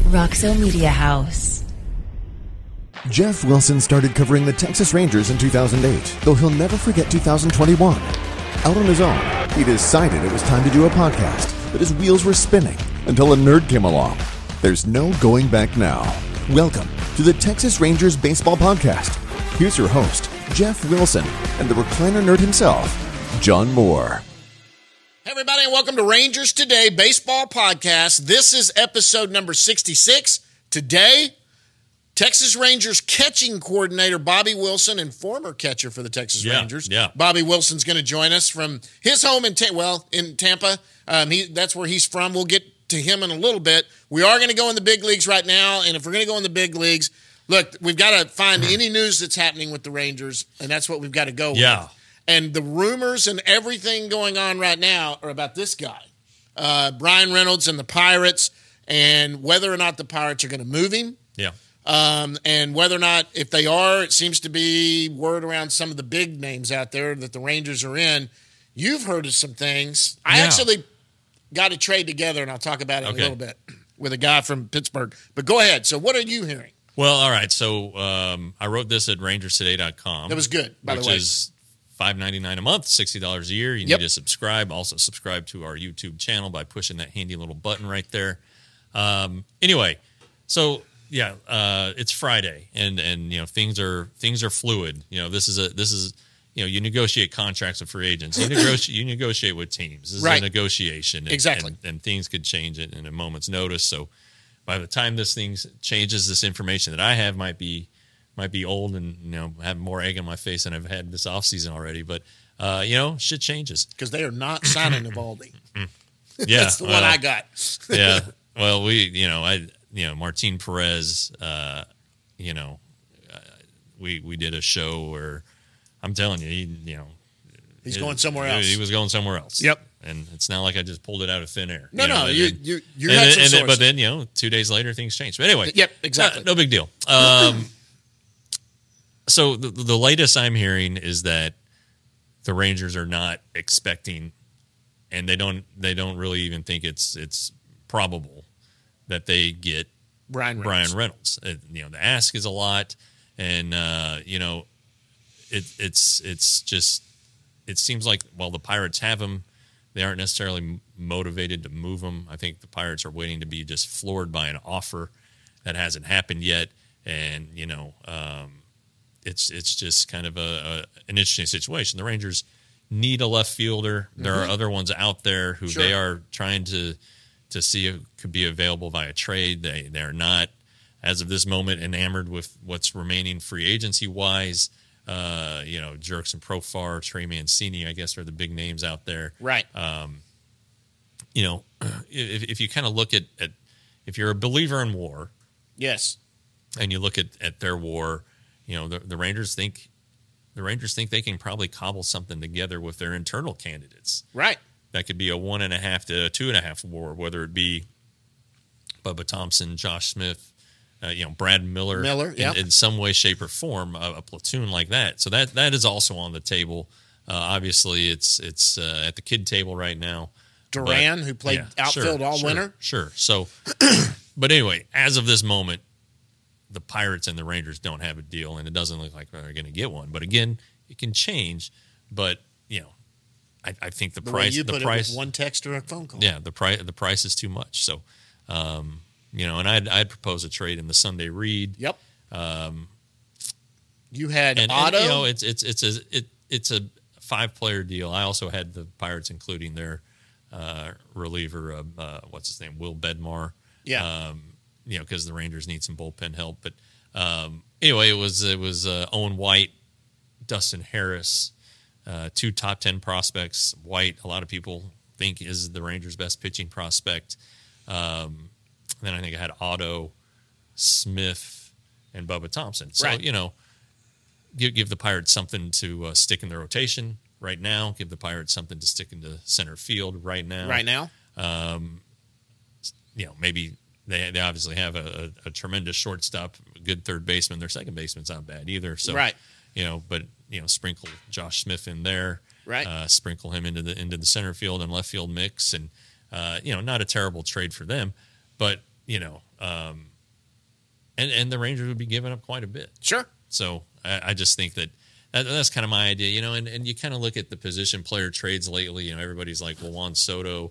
Roxo Media House. Jeff Wilson started covering the Texas Rangers in 2008, though he'll never forget 2021. Out on his own, he decided it was time to do a podcast, but his wheels were spinning until a nerd came along. There's no going back now. Welcome to the Texas Rangers Baseball Podcast. Here's your host, Jeff Wilson, and the recliner nerd himself, John Moore. Hey everybody, and welcome to Rangers Today Baseball Podcast. This is episode number 66. Today, Texas Rangers catching coordinator Bobby Wilson and former catcher for the Texas Rangers. Bobby Wilson's going to join us from his home in Tampa. That's where he's from. We'll get to him in a little bit. We are going to go in the big leagues right now, and if we're going to go in the big leagues, look, we've got to find any news that's happening with the Rangers, and that's what we've got to go with. And the rumors and everything going on right now are about this guy, Bryan Reynolds and the Pirates, and whether or not the Pirates are going to move him. And whether or not, if they are, it seems to be word around some of the big names out there that the Rangers are in. You've heard of some things. I actually got a trade together, and I'll talk about it in a little bit, with a guy from Pittsburgh. But go ahead. So what are you hearing? Well, all right. So I wrote this at rangerstoday.com. That was good, by the way. Which is $5.99 a month, $60 a year. You need to subscribe. Also subscribe to our YouTube channel by pushing that handy little button right there. Anyway, so it's Friday, and you know things are fluid. You know this is you negotiate contracts with free agents. You negotiate with teams. This is a negotiation, and things could change it in a moment's notice. So by the time this thing changes, this information that I have might be old and have more egg on my face than I've had this offseason already. But shit changes because they are not signing Eovaldi. That's the one I got. Well, Martin Perez. We did a show where I'm telling you, he's going somewhere else. He was going somewhere else. Yep. And it's not like I just pulled it out of thin air. You had some sources. But then 2 days later things changed. But anyway, exactly. No big deal. So the latest I'm hearing is that the Rangers are not expecting, and they don't really even think it's probable that they get Bryan Reynolds. The ask is a lot, and it's just, it seems like while the Pirates have him, they aren't necessarily motivated to move him. I think the Pirates are waiting to be just floored by an offer that hasn't happened yet, and it's just kind of an interesting situation. The Rangers need a left fielder. There are other ones out there who they are trying to see if could be available via trade. They are not, as of this moment, enamored with what's remaining free agency wise. Jurickson Profar, Trey Mancini, I guess, are the big names out there. Right. If you kind of look at if you're a believer in war, yes, and you look at their war, the Rangers think they can probably cobble something together with their internal candidates. Right. That could be a 1.5 to a 2.5 war, whether it be Bubba Thompson, Josh Smith, Brad Miller in some way, shape, or form, a platoon like that. So that is also on the table. Obviously, it's at the kid table right now. Duran, who played outfield all winter. Sure. So, but anyway, as of this moment, the Pirates and the Rangers don't have a deal, and it doesn't look like they're going to get one. But again, it can change. But I think the price. You put it with one text or a phone call. Yeah, the price is too much. So, and I'd propose a trade in the Sunday Reed. Yep. You had Otto. And, it's a 5-player deal. I also had the Pirates including their reliever, what's his name, Will Bednar. Yeah. Because the Rangers need some bullpen help. But anyway, it was Owen White, Dustin Harris, 2 top 10 prospects. White, a lot of people think is the Rangers' best pitching prospect. Then I think I had Otto, Smith, and Bubba Thompson. So give the Pirates something to stick in the rotation right now. Give the Pirates something to stick into center field right now. Right now. Maybe. They obviously have a tremendous shortstop, a good third baseman. Their second baseman's not bad either. So, but sprinkle Josh Smith in there, sprinkle him into the center field and left field mix, and not a terrible trade for them. But and the Rangers would be giving up quite a bit. Sure. So I just think that's kind of my idea, and you kind of look at the position player trades lately. Everybody's like, well, Juan Soto,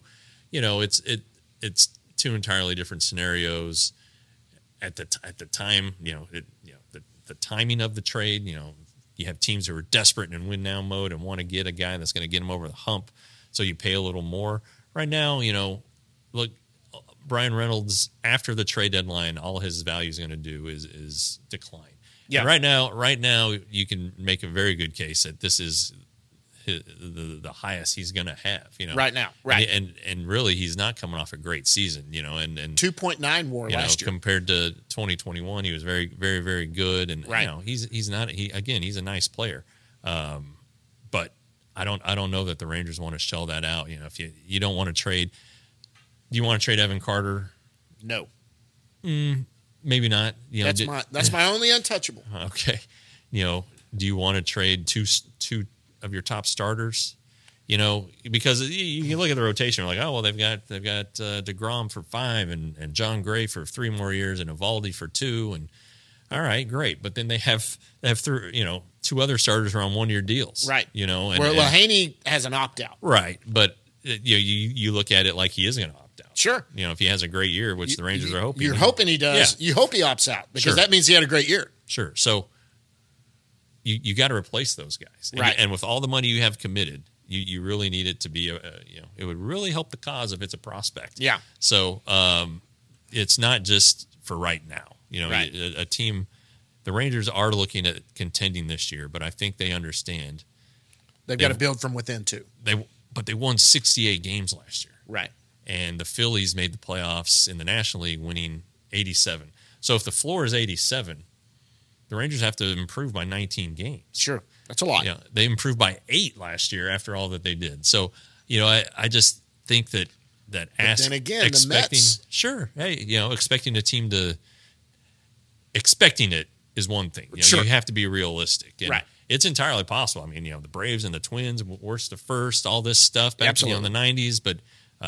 it's two entirely different scenarios at the time. The timing of the trade. You have teams who are desperate and in win now mode and want to get a guy that's going to get them over the hump, so you pay a little more. Right now, look, Brian Reynolds after the trade deadline, all his value is going to do is decline. Yeah. And right now, you can make a very good case that this is the highest he's going to have. Right now, right, and really, he's not coming off a great season. And 2.9 WAR last year compared to 2021, he was very, very, very good. And right. He's not. He's a nice player, but I don't know that the Rangers want to shell that out. If you don't want to trade, do you want to trade Evan Carter? No. Maybe not. That's my only untouchable. Okay. Do you want to trade two of your top starters? Because you look at the rotation, you're like, oh well, they've got DeGrom for 5 and John Gray for 3 more years and Evaldi for 2, and all right, great. But then they have 2 other starters who are on 1-year deals, right? Well, Haney has an opt out, right? But you look at it like he is going to opt out. Sure. If he has a great year, which the Rangers are hoping. You're hoping he does. Yeah. You hope he opts out because that means he had a great year. Sure. So you got to replace those guys. Right. And with all the money you have committed, you really need it to be, it would really help the cause if it's a prospect. Yeah. So it's not just for right now. Right. A team, the Rangers are looking at contending this year, but I think they understand. They've got to build from within too. But they won 68 games last year. Right. And the Phillies made the playoffs in the National League, winning 87. So if the floor is 87, the Rangers have to improve by 19 games. Sure. That's a lot. Yeah, they improved by 8 last year after all that they did. So, I just think that then again, the Mets. Sure. Hey, expecting a team to – expecting it is one thing. Sure. You have to be realistic. And right. It's entirely possible. I mean, the Braves and the Twins, worst to first, all this stuff back in the 90s. But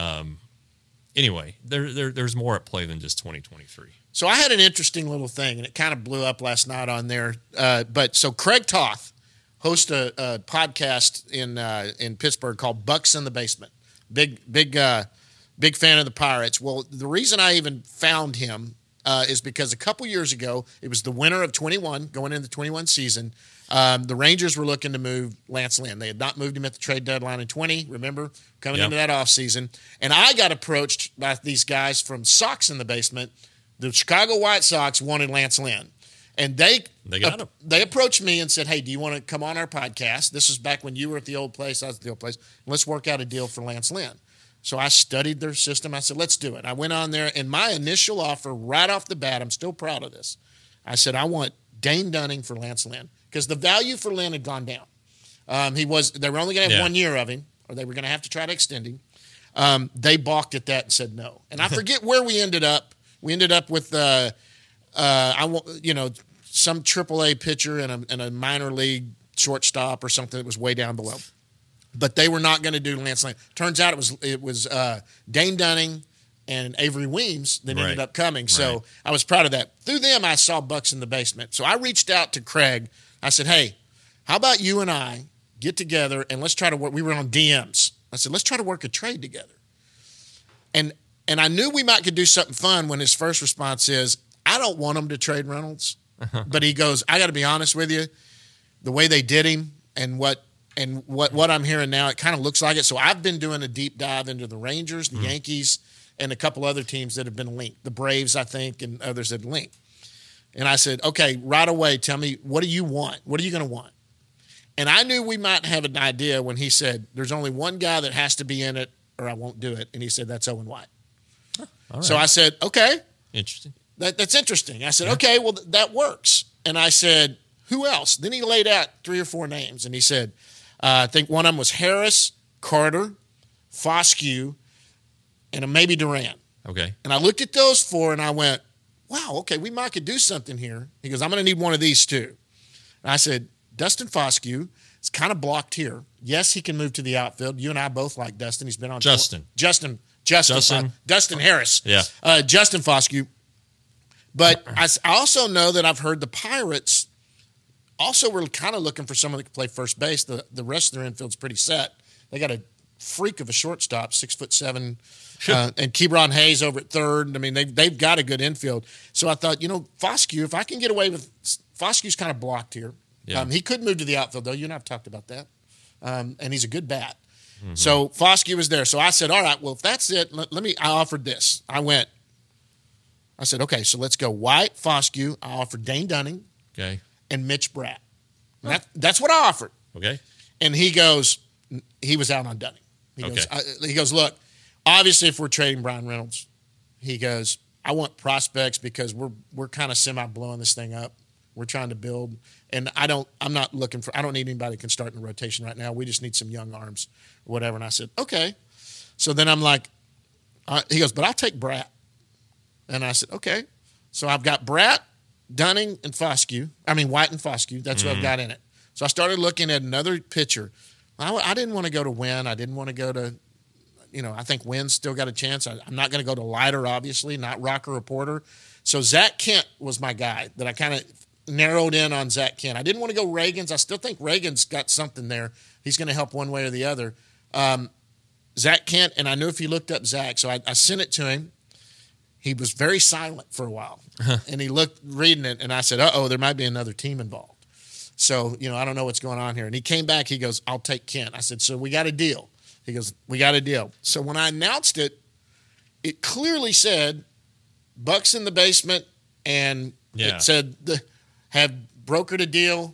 anyway, there's more at play than just 2023. So I had an interesting little thing, and it kind of blew up last night on there. So Craig Toth hosts a podcast in Pittsburgh called Bucks in the Basement. Big fan of the Pirates. Well, the reason I even found him is because a couple years ago, it was the winter of 21, going into the 21 season. The Rangers were looking to move Lance Lynn. They had not moved him at the trade deadline in 20, remember, coming into that offseason. And I got approached by these guys from Sox in the Basement. The Chicago White Sox wanted Lance Lynn. And they got him. They approached me and said, hey, do you want to come on our podcast? This was back when you were at the old place, I was at the old place. Let's work out a deal for Lance Lynn. So I studied their system. I said, let's do it. I went on there, and my initial offer right off the bat, I'm still proud of this. I said, I want Dane Dunning for Lance Lynn because the value for Lynn had gone down. They were only going to have 1 year of him, or they were going to have to try to extend him. They balked at that and said no. And I forget where we ended up. We ended up with some AAA pitcher and a minor league shortstop or something that was way down below. But they were not going to do Lance Lynn. Turns out it was Dane Dunning and Avery Weems that ended up coming. So I was proud of that. Through them, I saw Bucks in the Basement. So I reached out to Craig. I said, hey, how about you and I get together and let's try to work. We were on DMs. I said, let's try to work a trade together. And I knew we might could do something fun when his first response is, I don't want him to trade Reynolds. But he goes, I got to be honest with you, the way they did him and what I'm hearing now, it kind of looks like it. So I've been doing a deep dive into the Rangers, the Yankees, and a couple other teams that have been linked. The Braves, I think, and others that have linked. And I said, okay, right away, tell me, what do you want? What are you going to want? And I knew we might have an idea when he said, there's only one guy that has to be in it or I won't do it. And he said, that's Owen White. Right. So I said, okay. Interesting. That's interesting. I said, okay, well, that works. And I said, who else? Then he laid out 3 or 4 names. And he said, I think one of them was Harris, Carter, Foscue, and maybe Duran. Okay. And I looked at those 4 and I went, wow, okay, we might could do something here. He goes, I'm going to need one of these too. And I said, Dustin Foscue is kind of blocked here. Yes, he can move to the outfield. You and I both like Dustin. He's been on Justin Dustin Harris. Yeah. Justin Foscue. But I also know that I've heard the Pirates also were kind of looking for someone that could play first base. The rest of their infield's pretty set. They got a freak of a shortstop, 6'7", and Kebron Hayes over at third. I mean, they've got a good infield. So I thought, Foscue, if I can get away with Foscue's kind of blocked here. Yeah. He could move to the outfield, though. You and I have talked about that. And he's a good bat. Mm-hmm. So Foscue was there. So I said, all right, well, if that's it, I offered this. I said, okay, so let's go White, Foscue. I offered Dane Dunning. Okay. And Mitch Bratt. That's what I offered. Okay. And he was out on Dunning. He goes, look, obviously if we're trading Brian Reynolds, he goes, I want prospects because we're kind of semi-blowing this thing up. We're trying to build. And I don't need anybody that can start in the rotation right now. We just need some young arms or whatever. And I said, okay. So then I'm like, he goes, but I'll take Bratt. And I said, okay. So I've got Bratt, Dunning, and Foscue. I mean, White and Foscue. That's what I've got in it. So I started looking at another pitcher. I didn't want to go to Wynn. I didn't want to go to, I think Wynn's still got a chance. I'm not going to go to Leiter, obviously, not Rocker or Porter. So Zach Kent was my guy that I kind of narrowed in on Zach Kent. I didn't want to go Reagan's. I still think Reagan's got something there. He's going to help one way or the other. Zach Kent, and I knew if he looked up Zach, so I sent it to him. He was very silent for a while, and he looked reading it, and I said, there might be another team involved. So, I don't know what's going on here. And he came back. He goes, I'll take Kent. I said, so we got a deal. He goes, we got a deal. So when I announced it, it clearly said Bucks in the basement, and it said have brokered a deal.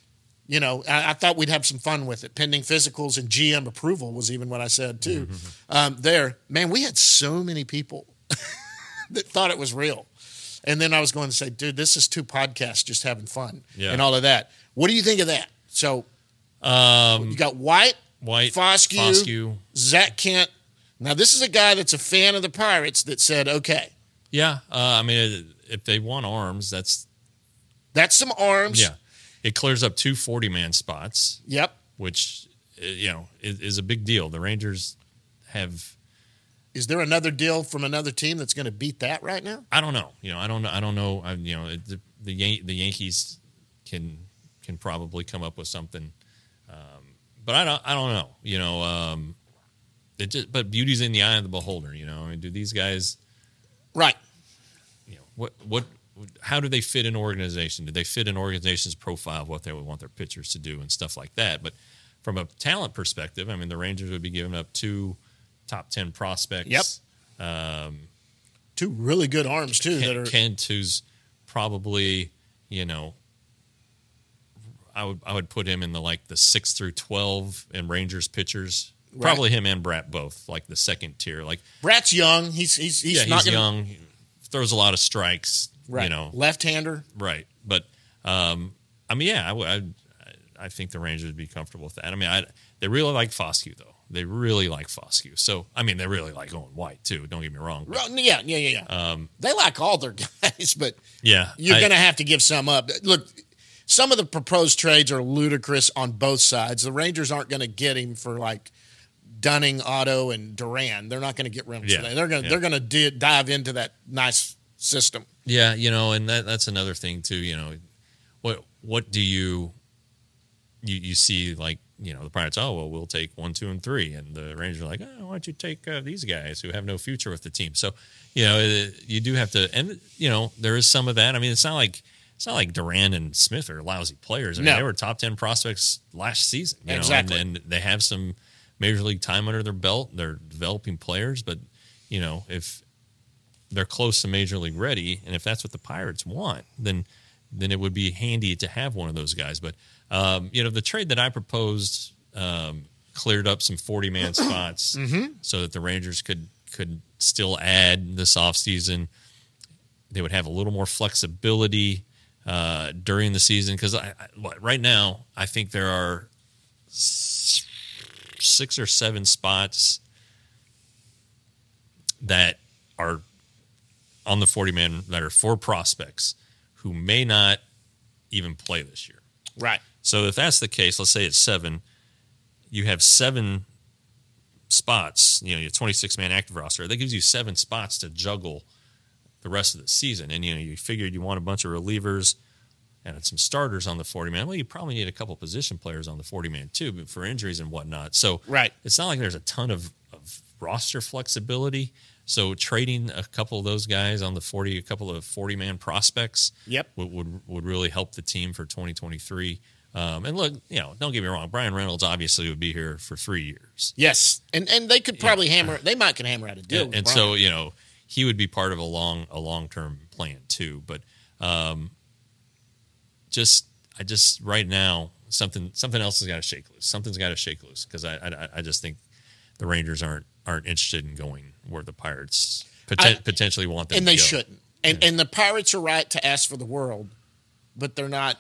I thought we'd have some fun with it. Pending physicals and GM approval was even what I said, too. Man, we had so many people that thought it was real. And then I was going to say, dude, this is 2 podcasts just having fun and all of that. What do you think of that? So you got White, Foscue, Zach Kent. Now, this is a guy that's a fan of the Pirates that said, okay. Yeah. I mean, if they want arms, that's some arms. Yeah. It clears up 2 40-man spots. Yep. Which, is a big deal. The Rangers have... Is there another deal from another team that's going to beat that right now? I don't know. I don't know. The Yankees can probably come up with something, but I don't know. But beauty's in the eye of the beholder. I mean, do these guys, right? What? How do they fit in organization? Do they fit in organization's profile of what they would want their pitchers to do and stuff like that? But from a talent perspective, I mean, the Rangers would be giving up 2 top 10 prospects. Yep. 2 really good arms too. Kent, who's probably, I would put him in the 6 through 12 in Rangers pitchers. Right. Probably him and Bratt both, the second tier. Bratt's young. He's young. He throws a lot of strikes. Right. Left-hander. Right. But I think the Rangers would be comfortable with that. I mean, they really like Foscue though. They really like Foscue. So, I mean, they really like Owen White, too. Don't get me wrong. But, yeah. They like all their guys, but you're going to have to give some up. Look, some of the proposed trades are ludicrous on both sides. The Rangers aren't going to get him for, Dunning, Otto, and Duran. They're not going to get Reynolds today. They're going to dive into that nice system. Yeah, and that's another thing, too. What do you see, the Pirates, we'll take 1, 2, and 3. And the Rangers are like, why don't you take these guys who have no future with the team? So, you do have to, and, there is some of that. I mean, it's not like Duran and Smith are lousy players. I mean, they were top 10 prospects last season. Exactly. And they have some major league time under their belt. They're developing players, but, if they're close to major league ready, and if that's what the Pirates want, then it would be handy to have one of those guys. But, the trade that I proposed cleared up some 40-man spots so that the Rangers could still add this offseason. They would have a little more flexibility during the season because right now I think there are 6 or 7 spots that are on the 40-man that are 4 prospects who may not even play this year. Right. So if that's the case, let's say it's 7, you have 7 spots. You know, your 26-man active roster. That gives you 7 spots to juggle the rest of the season. And, you know, you figured you want a bunch of relievers and some starters on the 40-man. Well, you probably need a couple position players on the 40-man too, but for injuries and whatnot. So it's not like there's a ton of roster flexibility. So trading a couple of those guys on the 40, a couple of 40-man prospects would really help the team for 2023. And look, you know, don't get me wrong. Brian Reynolds obviously would be here for 3 years. Yes, and they could probably hammer out a deal. And so, you know, he would be part of a long-term plan too. But just right now, something else has got to shake loose. Something's got to shake loose because I just think the Rangers aren't interested in going where the Pirates potentially want them, and to they go. shouldn't. And the Pirates are right to ask for the world, but they're not.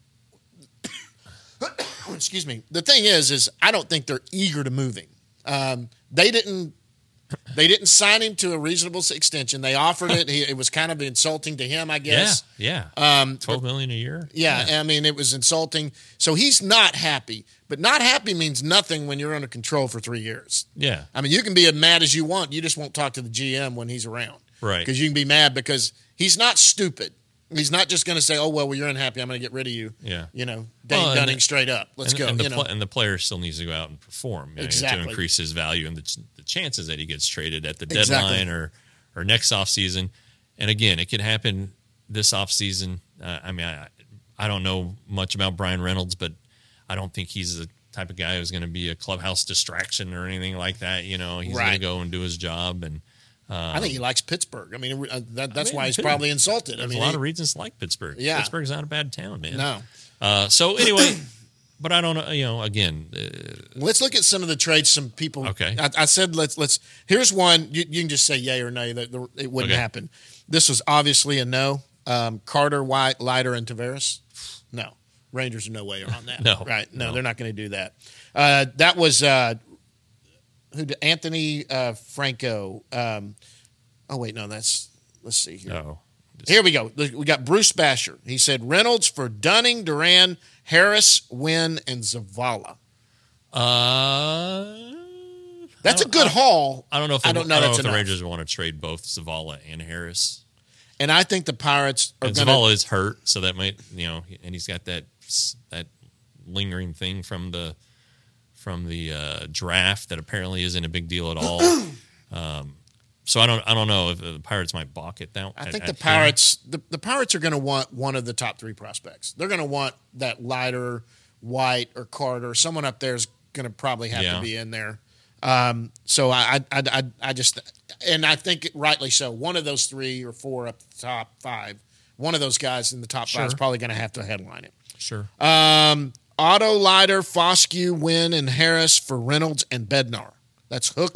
Excuse me. The thing is I don't think they're eager to move him. They didn't sign him to a reasonable extension. They offered it. It was kind of insulting to him, I guess. Yeah. $12 million a year. Yeah, I mean, it was insulting. So he's not happy. But not happy means nothing when you're under control for 3 years. Yeah. I mean, you can be as mad as you want. You just won't talk to the GM when he's around. Right. Because you can be mad because he's not stupid. He's not just going to say, "Oh well, you're unhappy. I'm going to get ring of you." Yeah, you know, Dunning straight up. Let's go. And the player still needs to go out and perform to increase his value and the chances that he gets traded at the deadline or next offseason. And again, it could happen this offseason. I mean, I don't know much about Brian Reynolds, but I don't think he's the type of guy who's going to be a clubhouse distraction or anything like that. You know, he's going to go and do his job and. I think he likes Pittsburgh. I mean, that's why he's probably insulted. There's a lot of reasons to like Pittsburgh. Yeah. Pittsburgh's not a bad town, man. No. So anyway, but I don't know. You know, again, let's look at some of the trades. Some people. Okay. I said let's. Here's one. You can just say yay or nay that it wouldn't happen. This was obviously a no. Carter, White, Leiter, and Tavares. No. Rangers are no way on that. No. Right. No, they're not going to do that. That was. Anthony Franco. Let's see here. No. Here we go. We got Bruce Basher. He said Reynolds for Dunning, Duran, Harris, Wynn, and Zavala. That's a good haul. I don't know if the Rangers want to trade both Zavala and Harris. And I think the Pirates are going to. Zavala is hurt, so that might, you know, and he's got that lingering thing from the draft that apparently isn't a big deal at all. So I don't know if the Pirates might balk at that. I think the Pirates are going to want one of the top 3 prospects. They're going to want that Leiter, White, or Carter. Someone up there is going to probably have to be in there. So I just, and I think rightly so. One of those 3 or 4 up the top 5. One of those guys in the top 5 is probably going to have to headline it. Sure. Otto, Leiter, Foscue, Wynn, and Harris for Reynolds and Bednar. That's Hook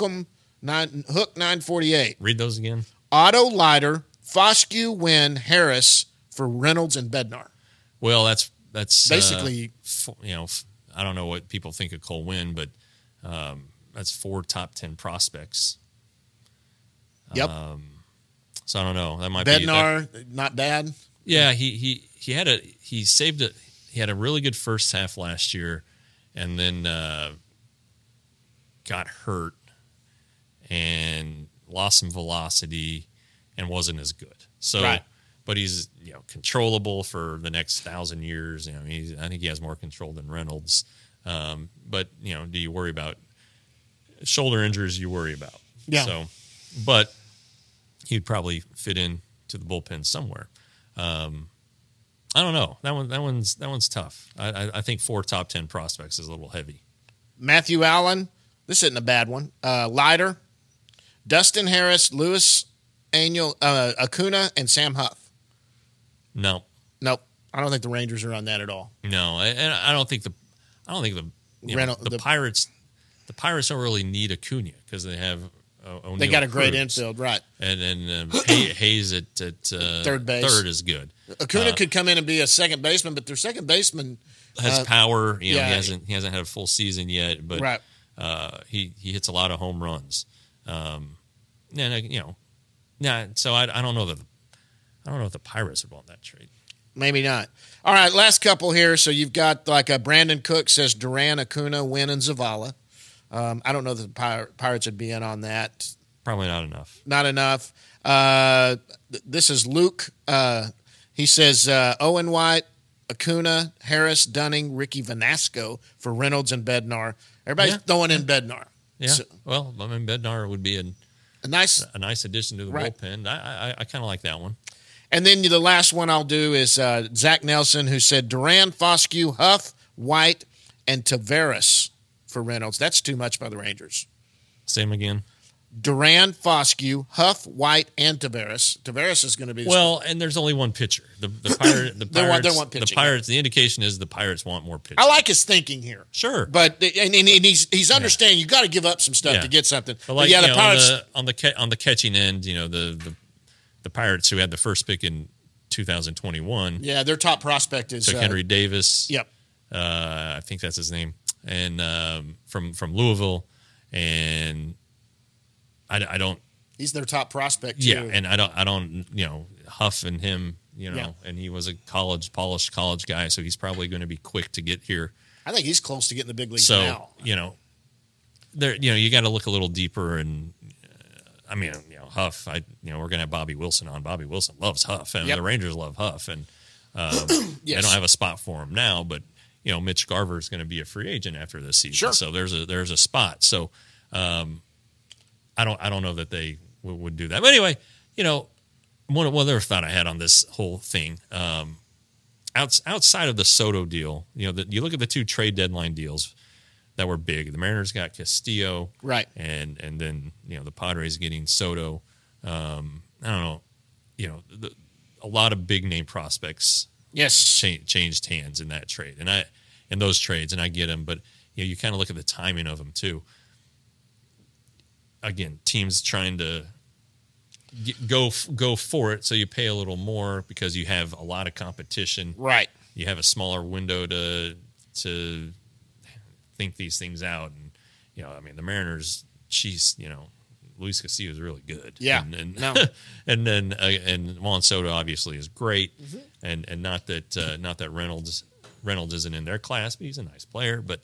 948. Read those again. Otto, Leiter, Foscue, Wynn, Harris for Reynolds and Bednar. Well, that's basically, you know, I don't know what people think of Cole Wynn, but that's 4 top 10 prospects. Yep. So I don't know. That might Bednar, not bad. Yeah, he had a really good first half last year, and then got hurt and lost some velocity and wasn't as good. So, but he's, you know, controllable for the next 1,000 years. You know, I think he has more control than Reynolds. But you know, do you worry about shoulder injuries? You worry about. Yeah. So, but he'd probably fit in to the bullpen somewhere. I don't know. That one's tough. I think 4 top 10 prospects is a little heavy. Matthew Allen. This isn't a bad one. Leiter, Dustin Harris, Luis Acuna, and Sam Huff. No. Nope. I don't think the Rangers are on that at all. No, and I don't think the Pirates. The Pirates don't really need Acuna because they have. O'Neal they got a great Cruz. Infield, right? And then Hayes at third base. Third is good. Acuna could come in and be a second baseman, but their second baseman has power. You know, he hasn't had a full season yet, but he hits a lot of home runs. So I don't know that if the Pirates would want that trade. Maybe not. All right, last couple here. So you've got like a Brandon Cook says Duran, Acuna, Wynn, and Zavala. I don't know that the Pirates would be in on that. Probably not enough. Not enough. This is Luke. He says Owen White, Acuna, Harris, Dunning, Ricky Vanasco for Reynolds and Bednar. Everybody's throwing in Bednar. Yeah. So, well, I mean, Bednar would be a nice addition to the bullpen. I kind of like that one. And then the last one I'll do is Zach Nelson, who said Duran, Foscue, Huff, White, and Taveras for Reynolds. That's too much by the Rangers. Same again. Duran, Foscue, Huff, White, and Taveras. Taveras is going to be and there's only one pitcher. The Pirates. They want pitching. The Pirates. The indication is the Pirates want more pitching. I like his thinking here. Sure, but and he's understanding. You got to give up some stuff to get something. But the Pirates on the catching end. The Pirates, who had the first pick in 2021. Yeah, their top prospect is took Henry Davis. Yep, I think that's his name, and from Louisville, and I don't. He's their top prospect too. Yeah, and I don't. Huff and him. And he was a polished college guy, so he's probably going to be quick to get here. I think he's close to getting the big leagues now. There, you got to look a little deeper, and Huff. We're going to have Bobby Wilson on. Bobby Wilson loves Huff, and the Rangers love Huff, and they don't have a spot for him now. But Mitch Garver is going to be a free agent after this season, so there's a spot. So I don't know that they would do that. But anyway, one other thought I had on this whole thing, outside of the Soto deal, you look at the two trade deadline deals that were big. The Mariners got Castillo, right, and then the Padres getting Soto. I don't know, a lot of big name prospects, changed hands in that trade, and in those trades, and I get them, but you kind of look at the timing of them too. Again, teams trying to go for it, so you pay a little more because you have a lot of competition. Right. You have a smaller window to think these things out, and the Mariners. Luis Castillo is really good. Yeah. And then Juan Soto obviously is great, and not that Reynolds isn't in their class, but he's a nice player. But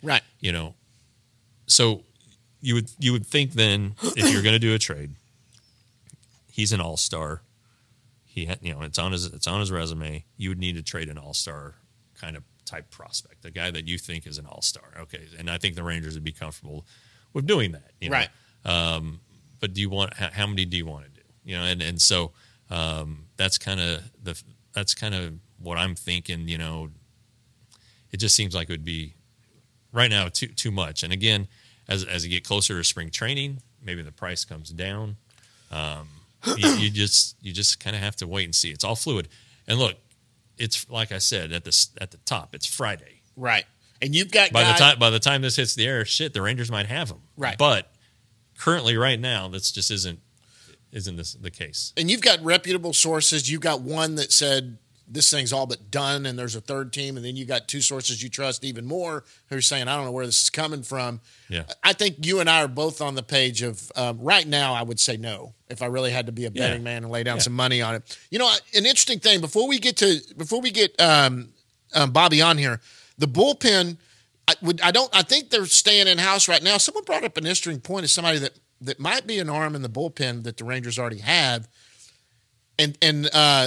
so you would think then if you're going to do a trade, he's an all-star. It's on his resume. You would need to trade an all-star kind of type prospect, a guy that you think is an all-star. Okay, and I think the Rangers would be comfortable with doing that. Right. But how many do you want to do? And so that's kind of what I'm thinking. It just seems like it would be right now too much. And again, as you get closer to spring training, maybe the price comes down. You just kind of have to wait and see. It's all fluid. And look, it's like I said at the top. It's Friday, right? And you've got by the time this hits the air, the Rangers might have them, right? But currently, right now, that's just isn't the case. And you've got reputable sources. You've got one that said this thing's all but done, and there's a third team, and then you got two sources you trust even more who are saying, I don't know where this is coming from. Yeah. I think you and I are both on the page of right now, I would say no if I really had to be a betting man and lay down some money on it. An interesting thing before we get Bobby on here, the bullpen. I think they're staying in house right now. Someone brought up an interesting point of somebody that might be an arm in the bullpen that the Rangers already have, and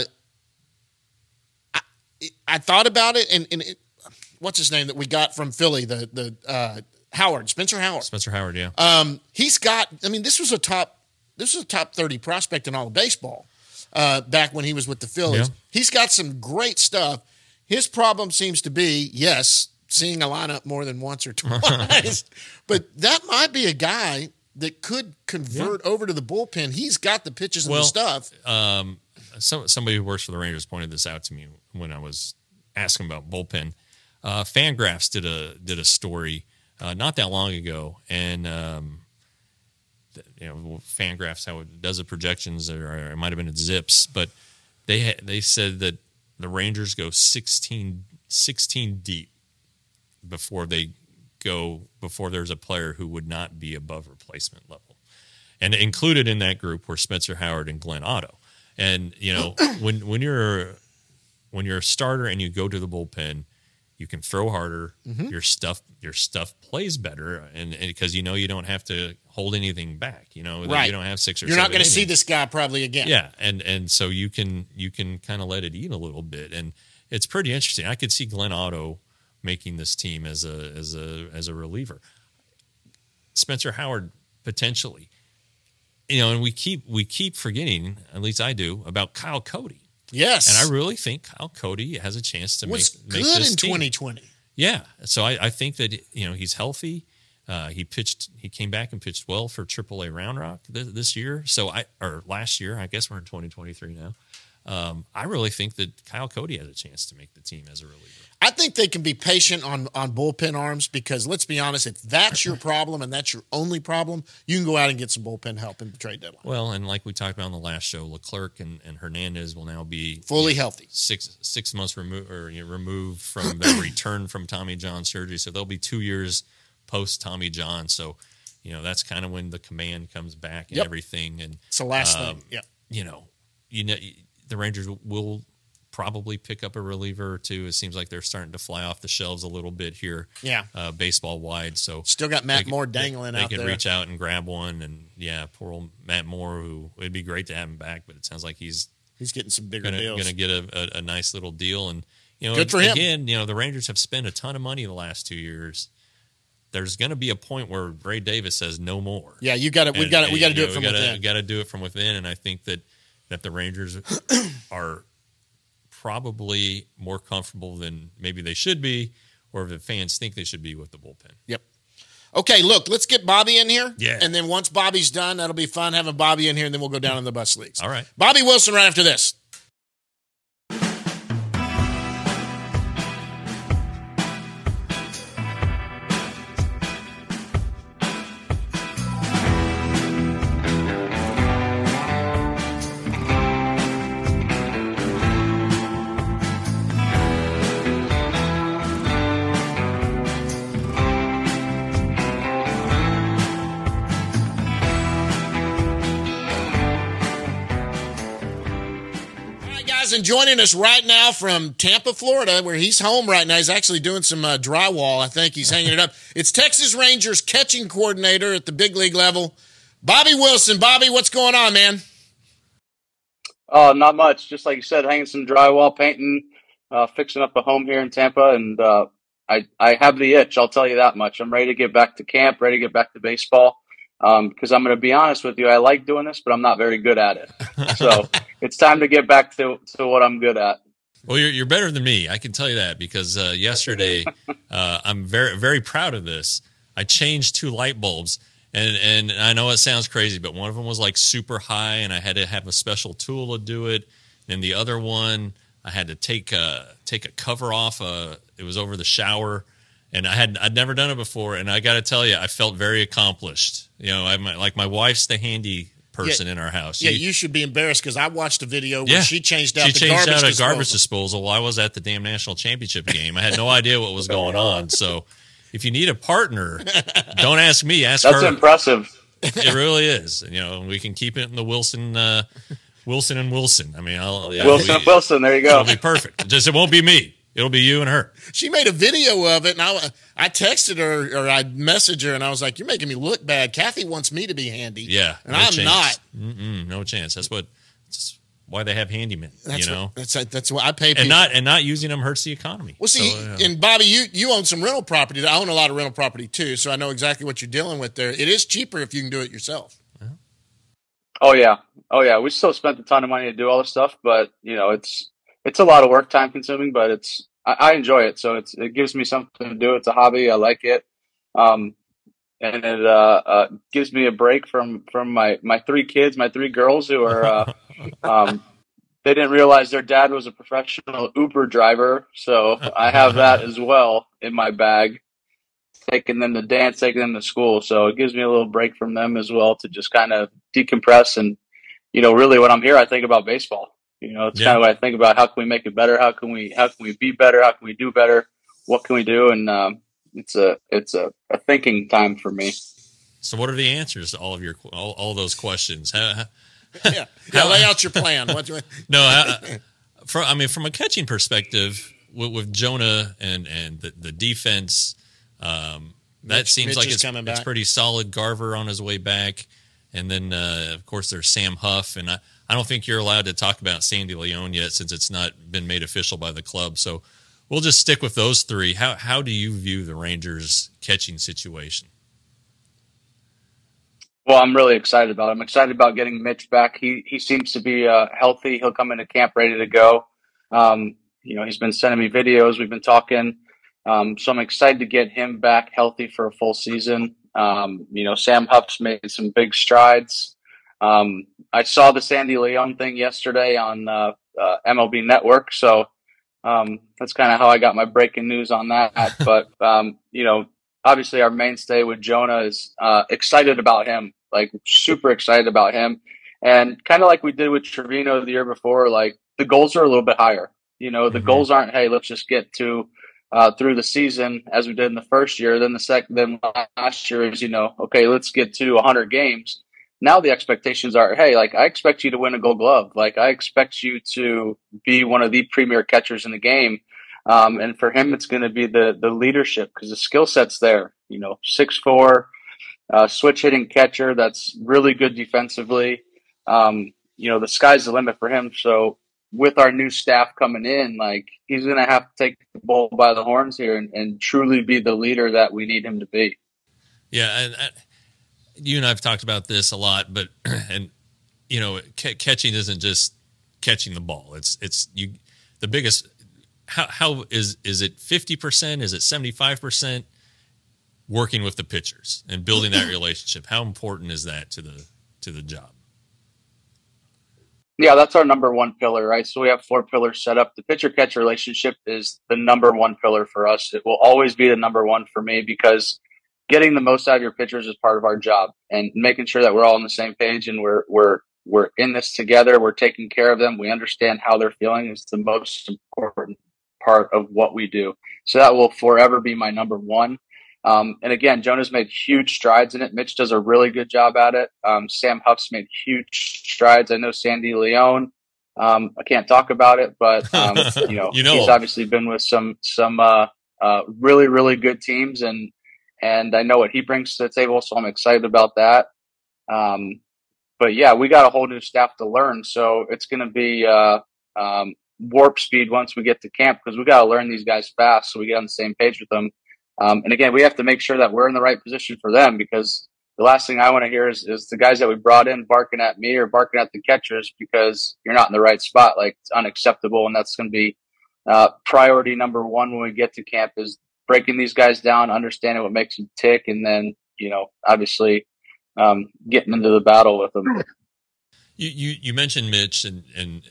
I thought about it, and what's his name that we got from Philly, the Howard, Spencer Howard. Spencer Howard, yeah. He's got. I mean, this was a top 30 prospect in all of baseball back when he was with the Phillies. Yeah. He's got some great stuff. His problem seems to be seeing a lineup more than once or twice, but that might be a guy that could convert over to the bullpen. He's got the pitches and the stuff. Somebody who works for the Rangers pointed this out to me when I was asking about bullpen. Fangraphs did a story not that long ago, and Fangraphs how it does the projections, or it might have been at Zips, but they said that the Rangers go 16 deep before there's a player who would not be above replacement level, and included in that group were Spencer Howard and Glenn Otto. And when you're a starter and you go to the bullpen, You can throw harder. Mm-hmm. Your stuff plays better, and because you don't have to hold anything back. Right. You don't have 6 or You're 7 not going to see innings. this guy probably again. Yeah, and so you can kind of let it eat a little bit, and it's pretty interesting. I could see Glenn Otto making this team as a reliever. Spencer Howard potentially, and we keep forgetting, at least I do, about Kyle Cody. Yes, And I really think Kyle Cody has a chance to was make good this in team. 2020. Yeah, so I think that he's healthy. He came back and pitched well for AAA Round Rock this year. Or last year, I guess we're in 2023 now. I really think that Kyle Cody has a chance to make the team as a reliever. I think they can be patient on bullpen arms because let's be honest, if that's your problem and that's your only problem, you can go out and get some bullpen help in the trade deadline. Well, and like we talked about on the last show, Leclerc and Hernandez will now be Fully healthy. 6 months removed from their return from Tommy John surgery, so they'll be 2 years post Tommy John. So, that's kind of when the command comes back and everything. And It's the last thing. Yeah. The Rangers will probably pick up a reliever or two. It seems like they're starting to fly off the shelves a little bit here, baseball wide. So Still got Matt Moore dangling they out can there. reach out and grab one, and poor old Matt Moore, who it'd be great to have him back, but it sounds like he's getting some bigger deals. going to get a nice little deal. And Good for him. Again, the Rangers have spent a ton of money the last 2 years. There's going to be a point where Ray Davis says no more. Yeah, we got to do it from within. We got to do it from within, and I think that the Rangers are probably more comfortable than maybe they should be, or the fans think they should be with the bullpen. Yep. Okay, look, let's get Bobby in here. Yeah. And then once Bobby's done, that'll be fun having Bobby in here, and then we'll go down in the bus leagues. All right. Bobby Wilson right after this. And joining us right now from Tampa, Florida, where he's home right now. He's actually doing some drywall. I think he's hanging it up. It's Texas Rangers catching coordinator at the big league level, Bobby Wilson. Bobby, what's going on, man? Oh, not much. Just like you said, hanging some drywall, painting, fixing up a home here in Tampa. And I have the itch, I'll tell you that much. I'm ready to get back to camp, ready to get back to baseball. Because I'm going to be honest with you, I like doing this, but I'm not very good at it. So it's time to get back to what I'm good at. Well, you're better than me. I can tell you that because yesterday I'm very, very proud of this. I changed 2 light bulbs, and I know it sounds crazy, but one of them was like super high, and I had to have a special tool to do it. And the other one, I had to take a cover off. It was over the shower. And I'd never done it before, and I got to tell you, I felt very accomplished. My wife's the handy person in our house. You should be embarrassed because I watched a video where she changed out a garbage disposal while I was at the damn national championship game. I had no idea what was going on. So, if you need a partner, don't ask me. Ask her. That's impressive. It really is. We can keep it in the Wilson and Wilson. I mean, Wilson. There you go. It'll be perfect. It won't be me. It'll be you and her. She made a video of it, and I texted her or I messaged her, and I was like, "You're making me look bad. Kathy wants me to be handy, yeah, and I'm not. No chance. That's why they have handymen. That's why I pay people. And not using them hurts the economy. Well, see, and Bobby, you own some rental property. I own a lot of rental property too, so I know exactly what you're dealing with there. It is cheaper if you can do it yourself. Oh yeah. We still spent a ton of money to do all this stuff, but it's a lot of work, time consuming, but I enjoy it. So it gives me something to do. It's a hobby. I like it. And it gives me a break from my 3 kids, my 3 girls who are, they didn't realize their dad was a professional Uber driver. So I have that as well in my bag, taking them to dance, taking them to school. So it gives me a little break from them as well to just kind of decompress. And, really when I'm here, I think about baseball. It's kind of what I think about. How can we make it better? How can we be better? How can we do better? What can we do? And it's a thinking time for me. So, what are the answers to all of all those questions? Lay out your plan. No, from a catching perspective, with Jonah and the defense, that seems Mitch like it's pretty solid. Garver on his way back, and then of course there's Sam Huff, and I don't think you're allowed to talk about Sandy Leon yet since it's not been made official by the club. So we'll just stick with those three. How do you view the Rangers catching situation? Well, I'm really excited about it. I'm excited about getting Mitch back. He seems to be healthy. He'll come into camp ready to go. He's been sending me videos. We've been talking. So I'm excited to get him back healthy for a full season. Sam Huff's made some big strides. I saw the Sandy Leon thing yesterday on MLB Network. So that's kind of how I got my breaking news on that. But, obviously our mainstay with Jonah is excited about him, like super excited about him. And kind of like we did with Trevino the year before, like the goals are a little bit higher. The goals aren't, hey, let's just get to through the season as we did in the first year. Then then last year is, okay, let's get to 100 games. Now the expectations are, hey, like I expect you to win a Gold Glove. Like I expect you to be one of the premier catchers in the game. And for him, it's going to be the leadership because the skill set's there. 6'4", switch hitting catcher that's really good defensively. The sky's the limit for him. So with our new staff coming in, like he's going to have to take the bull by the horns here and truly be the leader that we need him to be. Yeah, and you and I have talked about this a lot, but catching isn't just catching the ball. It's the biggest. How is it 50%? Is it 75%? Working with the pitchers and building that relationship. How important is that to the job? Yeah, that's our number one pillar, right? So we have 4 pillars set up. The pitcher-catcher relationship is the number one pillar for us. It will always be the number one for me because getting the most out of your pitchers is part of our job, and making sure that we're all on the same page and we're in this together. We're taking care of them. We understand how they're feeling is the most important part of what we do. So that will forever be my number one. And again, Jonah's made huge strides in it. Mitch does a really good job at it. Sam Huff's made huge strides. I know Sandy Leon. I can't talk about it, but he's obviously been with some really, really good teams, and I know what he brings to the table. So I'm excited about that. But yeah, we got a whole new staff to learn. So it's going to be warp speed once we get to camp because we got to learn these guys fast so we get on the same page with them. And again, we have to make sure that we're in the right position for them because the last thing I want to hear is the guys that we brought in barking at me or barking at the catchers because you're not in the right spot. Like it's unacceptable. And that's going to be priority number one when we get to camp is breaking these guys down, understanding what makes them tick, and then, obviously getting into the battle with them. You mentioned Mitch and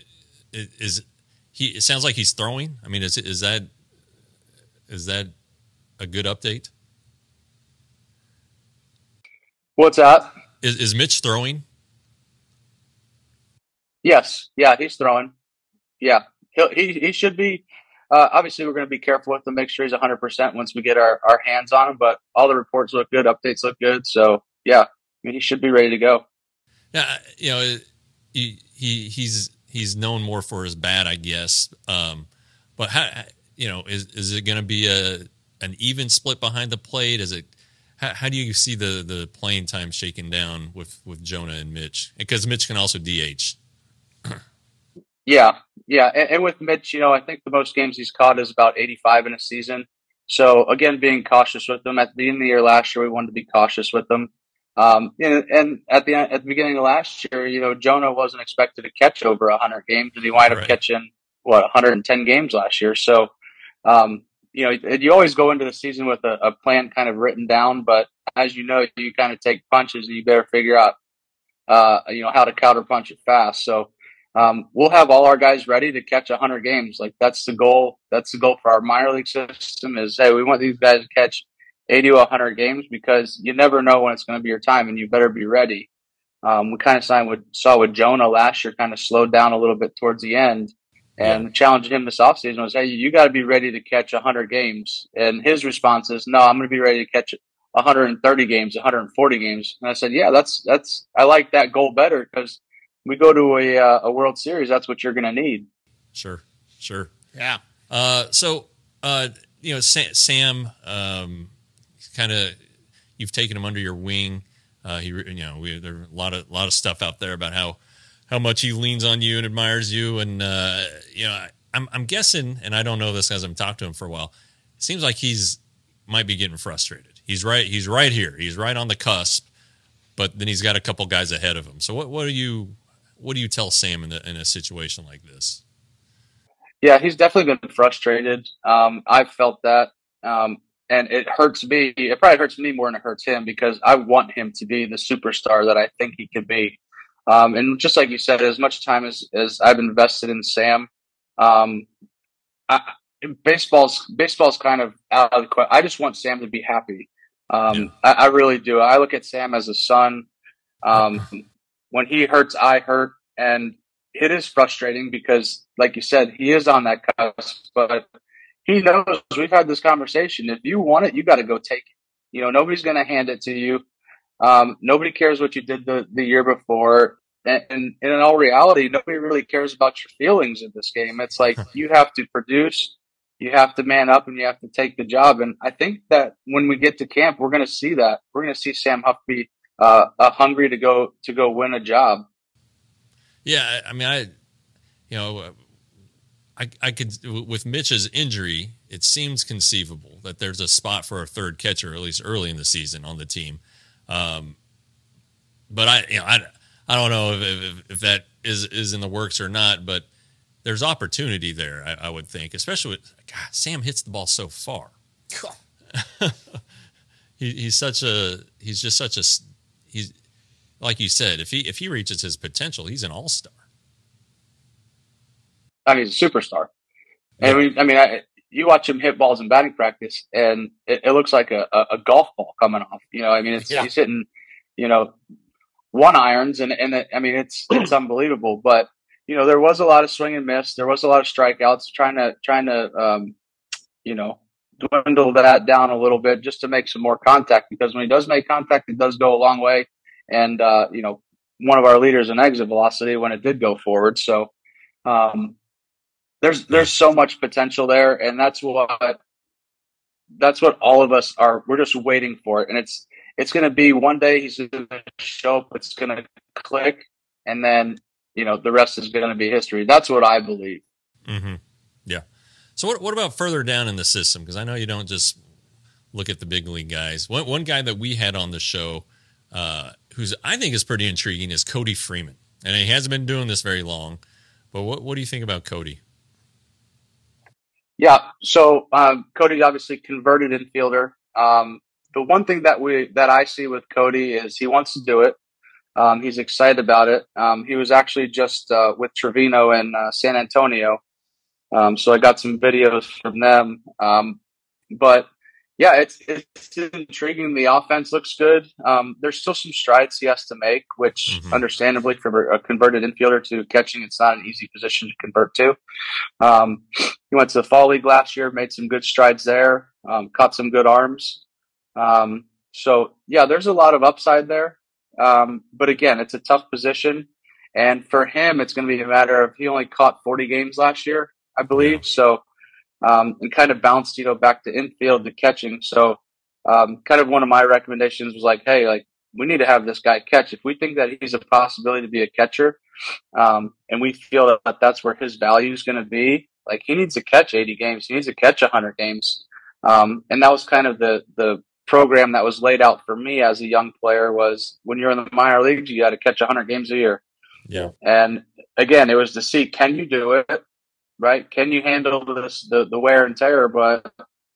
it sounds like he's throwing. I mean, is that a good update? What's that? Is Mitch throwing? Yes. Yeah, he's throwing. Yeah, he should be. Obviously, we're going to be careful with him, make sure he's 100% once we get our hands on him. But all the reports look good, updates look good. So yeah, I mean, he should be ready to go. Yeah, he's known more for his bat, I guess. But how, is it going to be an even split behind the plate? Is it? How do you see the playing time shaking down with Jonah and Mitch? Because Mitch can also DH. Yeah. And with Mitch, I think the most games he's caught is about 85 in a season. So again, being cautious with them. At the beginning of the year last year, we wanted to be cautious with them. And at the beginning of last year, Jonah wasn't expected to catch over 100 games, and he wound up catching 110 games last year. So, you always go into the season with a plan kind of written down, but as you kind of take punches, and you better figure out, how to counter punch it fast. So, we'll have all our guys ready to catch 100 games. Like that's the goal. That's the goal for our minor league system is, hey, we want these guys to catch 80 to 100 games because you never know when it's going to be your time and you better be ready. We kind of saw with Jonah last year kind of slowed down a little bit towards the end. And the challenge to him this offseason was, hey, you got to be ready to catch 100 games. And his response is, no, I'm going to be ready to catch 130 games, 140 games. And I said, yeah, I like that goal better because we go to a World Series. That's what you're going to need. Sure. Yeah. So Sam, kind of, you've taken him under your wing. There are a lot of stuff out there about how much he leans on you and admires you, and I'm guessing, and I don't know this as I'm talking to him for a while. It seems like might be getting frustrated. He's right here. He's right on the cusp, but then he's got a couple guys ahead of him. So what do you tell Sam in a situation like this? Yeah, he's definitely been frustrated. I've felt that. And it hurts me. It probably hurts me more than it hurts him because I want him to be the superstar that I think he can be. And just like you said, as much time as I've invested in Sam, baseball's kind of out of the question. I just want Sam to be happy. I really do. I look at Sam as a son. When he hurts, I hurt, and it is frustrating because, like you said, he is on that cusp, but he knows. We've had this conversation. If you want it, you got to go take it. Nobody's going to hand it to you. Nobody cares what you did the year before. And in all reality, nobody really cares about your feelings in this game. It's like you have to produce, you have to man up, and you have to take the job. And I think that when we get to camp, we're going to see that. We're going to see Sam Huff hungry to go win a job. Yeah, I mean, I could, with Mitch's injury, it seems conceivable that there's a spot for a third catcher, at least early in the season, on the team. But I don't know if that is in the works or not. But there's opportunity there, I would think, especially with Sam hits the ball so far. He's like you said, if he reaches his potential, he's an all-star. I mean, he's a superstar. And you watch him hit balls in batting practice, and it looks like a golf ball coming off. He's hitting, one irons, and it's unbelievable. But there was a lot of swing and miss. There was a lot of strikeouts. Trying to dwindle that down a little bit just to make some more contact, because when he does make contact, it does go a long way. And one of our leaders in exit velocity when it did go forward. So. There's so much potential there, and that's what all of us are. We're just waiting for it, and it's going to be one day he's going to show up. It's going to click, and then the rest is going to be history. That's what I believe. Mm-hmm. Yeah. So what about further down in the system? Because I know you don't just look at the big league guys. One guy that we had on the show, who's I think is pretty intriguing, is Cody Freeman, and he hasn't been doing this very long. But what do you think about Cody? Yeah, so Cody's obviously converted infielder. The one thing that I see with Cody is he wants to do it. He's excited about it. He was actually just with Trevino in San Antonio, so I got some videos from them. But yeah, it's intriguing. The offense looks good. There's still some strides he has to make, which understandably for a converted infielder to catching, it's not an easy position to convert to. He went to the fall league last year, made some good strides there, caught some good arms. So yeah, there's a lot of upside there. But again, it's a tough position. And for him, it's going to be a matter of, he only caught 40 games last year, I believe. Yeah. So, and kind of bounced, back to infield to catching. So, kind of one of my recommendations was like, hey, we need to have this guy catch. If we think that he's a possibility to be a catcher, and we feel that that's where his value is going to be, he needs to catch 80 games. He needs to catch 100 games. And that was kind of the program that was laid out for me as a young player, was when you're in the minor leagues, you got to catch 100 games a year. Yeah. And again, it was to see, can you do it? Right? Can you handle the wear and tear? But,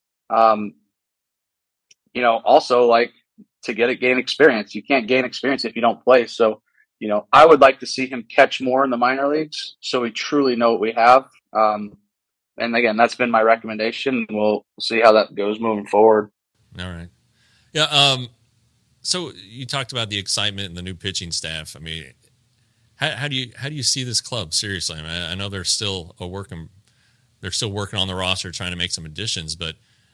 also to gain experience. You can't gain experience if you don't play. So, I would like to see him catch more in the minor leagues so we truly know what we have. And again, that's been my recommendation. We'll see how that goes moving forward. All right. Yeah. So you talked about the excitement and the new pitching staff. I mean, how do you see this club? Seriously, I mean, I know they're still working on the roster, trying to make some additions, but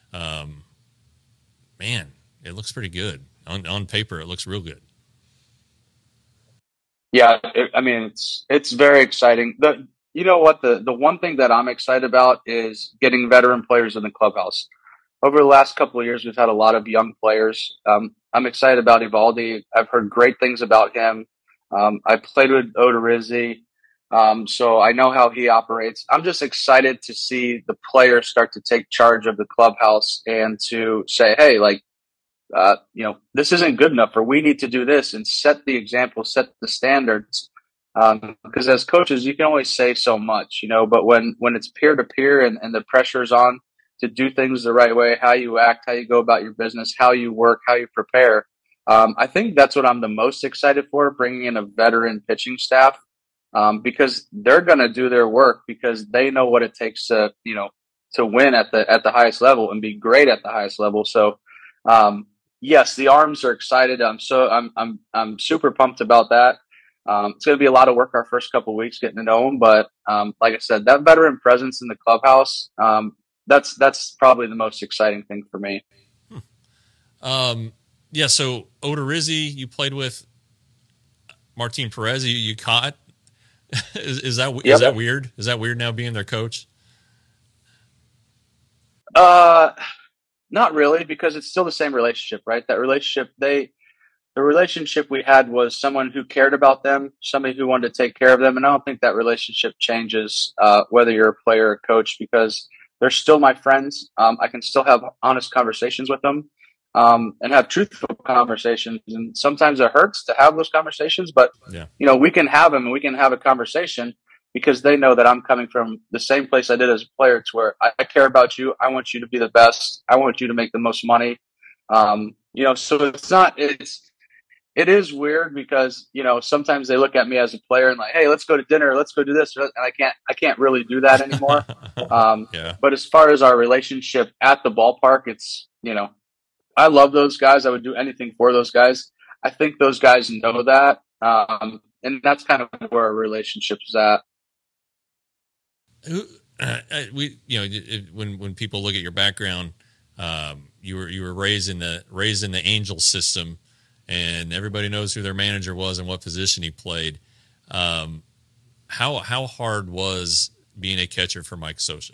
man, it looks pretty good on paper. It looks real good. Yeah, it's very exciting. you know what? The one thing that I'm excited about is getting veteran players in the clubhouse. Over the last couple of years, we've had a lot of young players. I'm excited about Eovaldi. I've heard great things about him. I played with Odorizzi, so I know how he operates. I'm just excited to see the players start to take charge of the clubhouse and to say, hey, like, this isn't good enough, or we need to do this, and set the example, set the standards. Because as coaches, you can only say so much, but when it's peer to peer and the pressure's on to do things the right way, how you act, how you go about your business, how you work, how you prepare. I think that's what I'm the most excited for, bringing in a veteran pitching staff, because they're going to do their work because they know what it takes to win at the highest level and be great at the highest level. So, yes, the arms are excited. I'm super pumped about that. It's going to be a lot of work our first couple of weeks getting to know them, but like I said, that veteran presence in the clubhouse, that's probably the most exciting thing for me. Yeah. So Odorizzi, you played with. Martin Perez, you caught. Is that weird? Is that weird now being their coach? Not really, because it's still the same relationship, right? That relationship, the relationship we had was someone who cared about them, somebody who wanted to take care of them. And I don't think that relationship changes whether you're a player or coach, because they're still my friends. I can still have honest conversations with them and have truthful conversations. And sometimes it hurts to have those conversations, but we can have them and we can have a conversation because they know that I'm coming from the same place I did as a player, to where I care about you. I want you to be the best. I want you to make the most money. So it is weird because, sometimes they look at me as a player and like, hey, let's go to dinner, let's go do this. And I can't really do that anymore. But as far as our relationship at the ballpark, it's, I love those guys. I would do anything for those guys. I think those guys know that. And that's kind of where our relationship is at. When people look at your background, you were raised in the Angels system, and everybody knows who their manager was and what position he played. How hard was being a catcher for Mike Scioscia?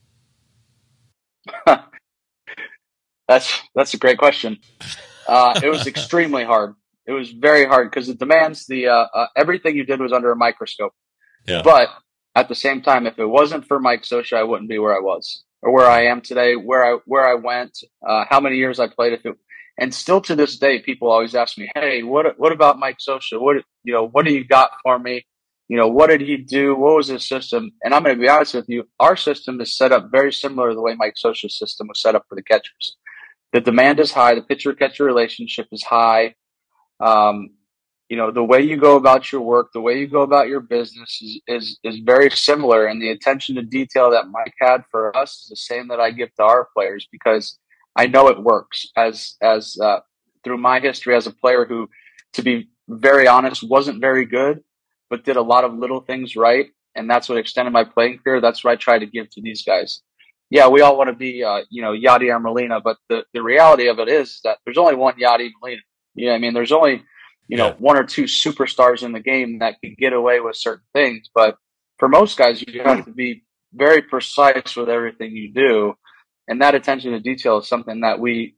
That's a great question. It was extremely hard. It was very hard because it demands everything you did was under a microscope. Yeah. But at the same time, if it wasn't for Mike Scioscia, I wouldn't be where I was or where I am today, where I went, how many years I played. And still to this day, people always ask me, hey, what about Mike Scioscia? What do you got for me? What did he do? What was his system? And I'm going to be honest with you, our system is set up very similar to the way Mike Scioscia's system was set up for the catchers. The demand is high. The pitcher-catcher relationship is high. The way you go about your work, the way you go about your business is very similar. And the attention to detail that Mike had for us is the same that I give to our players, because I know it works as through my history as a player who, to be very honest, wasn't very good, but did a lot of little things right. And that's what extended my playing career. That's what I try to give to these guys. Yeah, we all want to be, Yadier Molina, but the reality of it is that there's only one Yadier Molina. You know what I mean? There's only, one or two superstars in the game that can get away with certain things. But for most guys, you have to be very precise with everything you do. And that attention to detail is something that we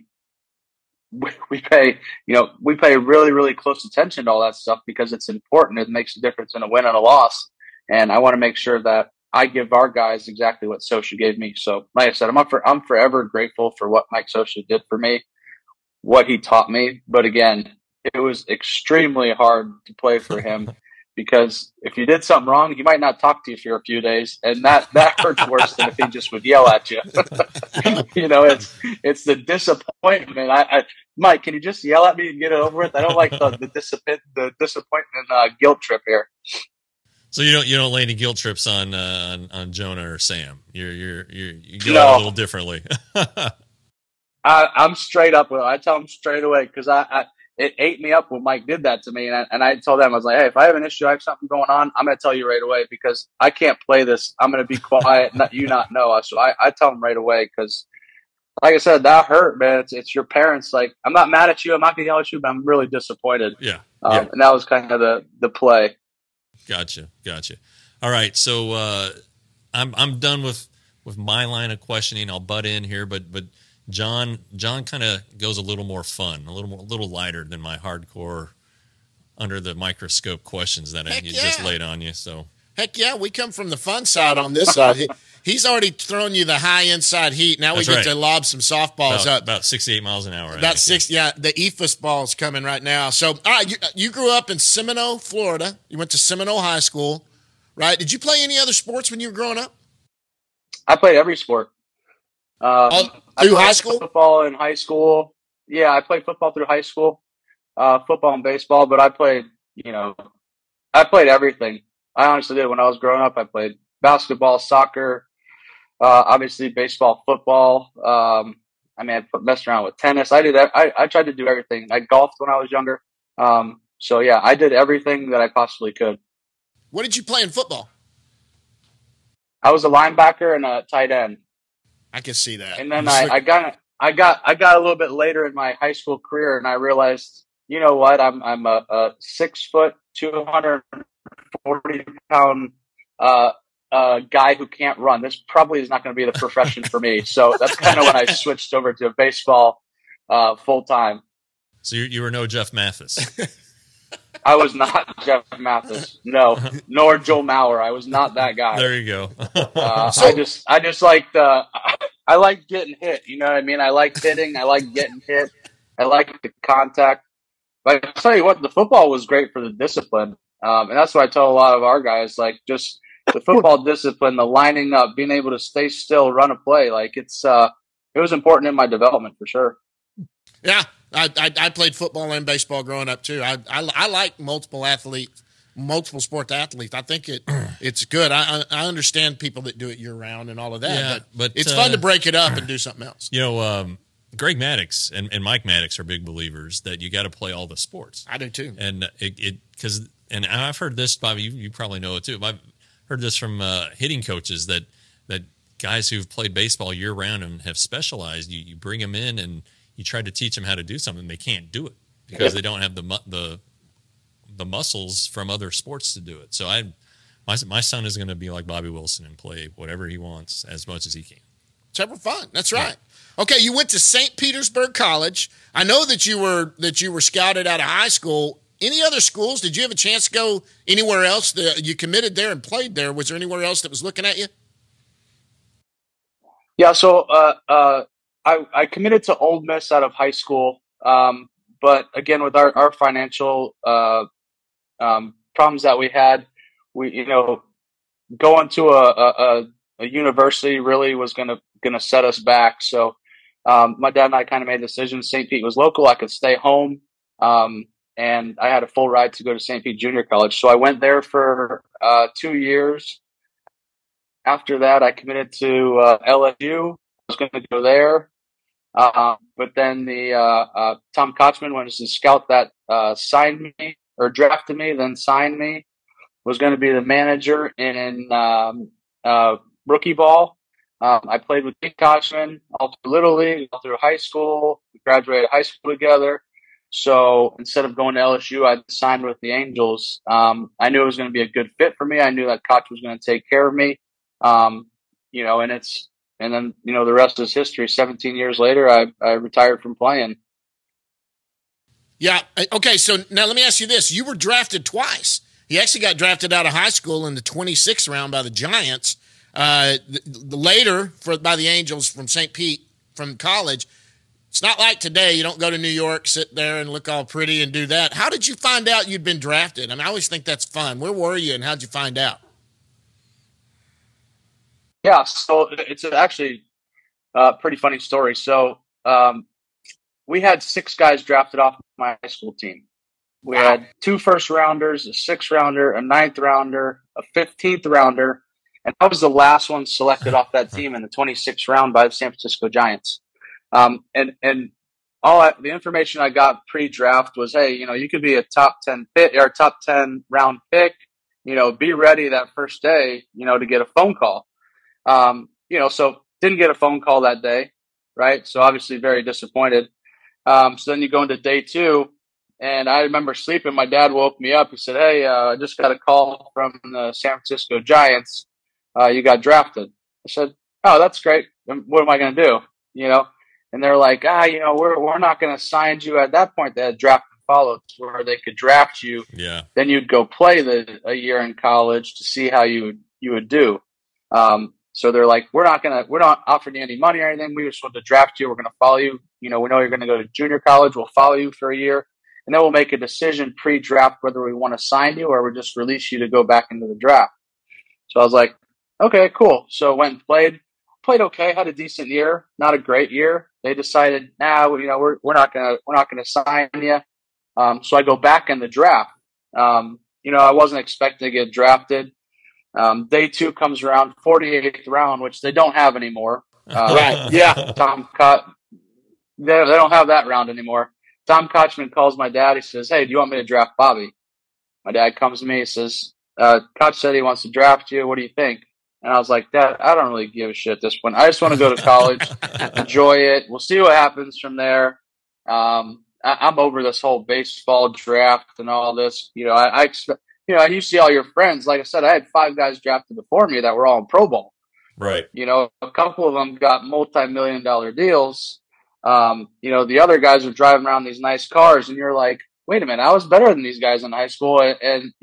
pay, we pay really, really close attention to all that stuff because it's important. It makes a difference in a win and a loss. And I want to make sure that I give our guys exactly what Scioscia gave me. So like I said, I'm forever grateful for what Mike Scioscia did for me, what he taught me. But again, it was extremely hard to play for him because if you did something wrong, he might not talk to you for a few days. And that hurts worse than if he just would yell at you. It's the disappointment. Mike, can you just yell at me and get it over with? I don't like the disappointment guilt trip here. So you don't lay any guilt trips on Jonah or Sam. You go out a little differently. I'm straight up with it. I tell them straight away because it ate me up when Mike did that to me, and I told them, I was like, hey, if I have an issue, I have something going on, I'm going to tell you right away because I can't play this. I'm going to be quiet, not know. So I tell them right away because, like I said, that hurt, man. It's your parents. Like, I'm not mad at you. I'm not going to yell at you, but I'm really disappointed. Yeah. And that was kind of the play. Gotcha. All right, so I'm done with my line of questioning. I'll butt in here, but John kind of goes a little more fun, a little lighter than my hardcore under the microscope questions that just laid on you. So heck yeah, we come from the fun side on this side. He's already thrown you the high inside heat. Now we get to lob some softballs up. About 68 miles an hour. About 60, yeah. The EFUS ball's coming right now. So, all right, you grew up in Seminole, Florida. You went to Seminole High School, right? Did you play any other sports when you were growing up? I played every sport. Through high school? Football in high school. Yeah, I played football through high school, football and baseball, but I played everything. I honestly did. When I was growing up, I played basketball, soccer, obviously baseball, football. I messed around with tennis. I did. I tried to do everything. I golfed when I was younger. So yeah, I did everything that I possibly could. What did you play in football? I was a linebacker and a tight end. I can see that. And then I got a little bit later in my high school career, and I realized, you know what? I'm a 6 foot, 240 pound guy who can't run. This probably is not going to be the profession for me. So that's kind of when I switched over to baseball full time. So you were no Jeff Mathis. I was not Jeff Mathis. No, nor Joe Mauer. I was not that guy. There you go. I just like I like getting hit. You know what I mean? I like hitting. I like getting hit. I like the contact. But I tell you what, the football was great for the discipline. And that's what I tell a lot of our guys, like just the football discipline, the lining up, being able to stay still, run a play. Like it was important in my development for sure. Yeah. I played football and baseball growing up too. I like multiple sport athletes. I think it's good. I understand people that do it year round and all of that. Yeah, but it's fun to break it up and do something else. You know, Greg Maddux and Mike Maddux are big believers that you got to play all the sports. I do too. And and I've heard this, Bobby. You probably know it too. I've heard this from hitting coaches that guys who've played baseball year round and have specialized. You bring them in and you try to teach them how to do something, they can't do it because they don't have the muscles from other sports to do it. So my son is going to be like Bobby Wilson and play whatever he wants as much as he can. It's ever fun. That's right. Yeah. Okay, you went to St. Petersburg College. I know that you were scouted out of high school. Any other schools? Did you have a chance to go anywhere else? You committed there and played there. Was there anywhere else that was looking at you? Yeah, so I committed to Ole Miss out of high school, but again, with our financial problems that we had, going to a university really was gonna set us back. So my dad and I kind of made the decision. St. Pete was local; I could stay home, and I had a full ride to go to St. Pete Junior College. So I went there for 2 years. After that, I committed to LSU. I was going to go there. But then the Tom Kotzman was the scout that signed me or drafted me, then signed me, was going to be the manager in rookie ball. I played with Pete Kotzman all through Little League, all through high school. We graduated high school together. So instead of going to LSU, I signed with the Angels. I knew it was going to be a good fit for me. I knew that Koch was going to take care of me. And then the rest is history. 17 years later, I retired from playing. Yeah. Okay. So now let me ask you this. You were drafted twice. He actually got drafted out of high school in the 26th round by the Giants. Later by the Angels from St. Pete from college. It's not like today. You don't go to New York, sit there and look all pretty and do that. How did you find out you'd been drafted? I mean, I always think that's fun. Where were you and how'd you find out? Yeah, so it's actually a pretty funny story. So we had 6 guys drafted off my high school team. We had 2 first-rounders, a 6th-rounder, a 9th-rounder, a 15th-rounder, and I was the last one selected off that team in the 26th round by the San Francisco Giants. And all the information I got pre-draft was, hey, you could be a top 10 pick or top 10 round pick. Be ready that first day, to get a phone call. So didn't get a phone call that day, right? So obviously very disappointed. So then you go into day 2 And I remember sleeping. My dad woke me up. He said, "Hey, I just got a call from the San Francisco Giants. You got drafted." I said, "Oh, that's great. What am I going to do?" And they're like, we're not going to sign you at that point. They had draft and follow where they could draft you. Yeah. Then you'd go play a year in college to see how you would do. So they're like, we're not offering you any money or anything. We just want to draft you. We're going to follow you. We know you're going to go to junior college. We'll follow you for a year. And then we'll make a decision pre-draft whether we want to sign you or we just release you to go back into the draft. So I was like, okay, cool. So went and played okay, had a decent year, not a great year. They decided, we're not gonna sign you. So I go back in the draft. I wasn't expecting to get drafted. Day 2 comes around, 48th round, which they don't have anymore. Right. Yeah. They don't have that round anymore. Tom Kochman calls my dad. He says, "Hey, do you want me to draft Bobby?" My dad comes to me. He says, "Koch said he wants to draft you. What do you think?" And I was like, "Dad, I don't really give a shit at this point. I just want to go to college, enjoy it. We'll see what happens from there." I'm over this whole baseball draft and all this. I expect, you see all your friends. Like I said, I had 5 guys drafted before me that were all in Pro Bowl. Right. A couple of them got multi-million-dollar deals. The other guys are driving around these nice cars, and you're like, wait a minute, I was better than these guys in high school, and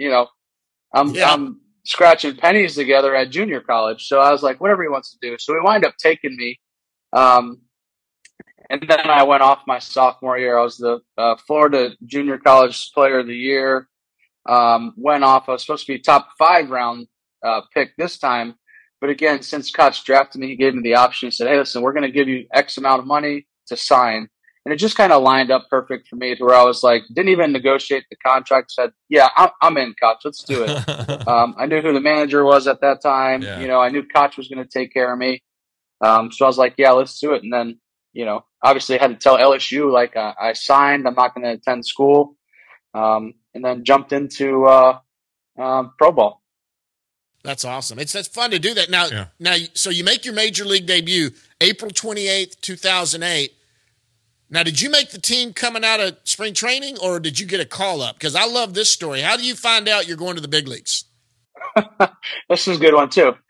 I'm scratching pennies together at junior college. So I was like, whatever he wants to do. So he wound up taking me, and then I went off my sophomore year. I was the Florida Junior College Player of the Year. Went off. I was supposed to be top 5 round pick this time, but again, since Koch drafted me, he gave me the option. He said, "Hey, listen, we're going to give you X amount of money to sign." And it just kind of lined up perfect for me to where I was like, didn't even negotiate the contract. Said, "Yeah, I'm in, Koch. Let's do it." I knew who the manager was at that time. Yeah. I knew Koch was going to take care of me. So I was like, "Yeah, let's do it." And then, obviously I had to tell LSU, like, I signed. I'm not going to attend school. And then jumped into Pro Bowl. That's awesome. That's fun to do that. Now, so you make your major league debut April 28th, 2008. Now, did you make the team coming out of spring training, or did you get a call up? Because I love this story. How do you find out you're going to the big leagues? This is a good one too.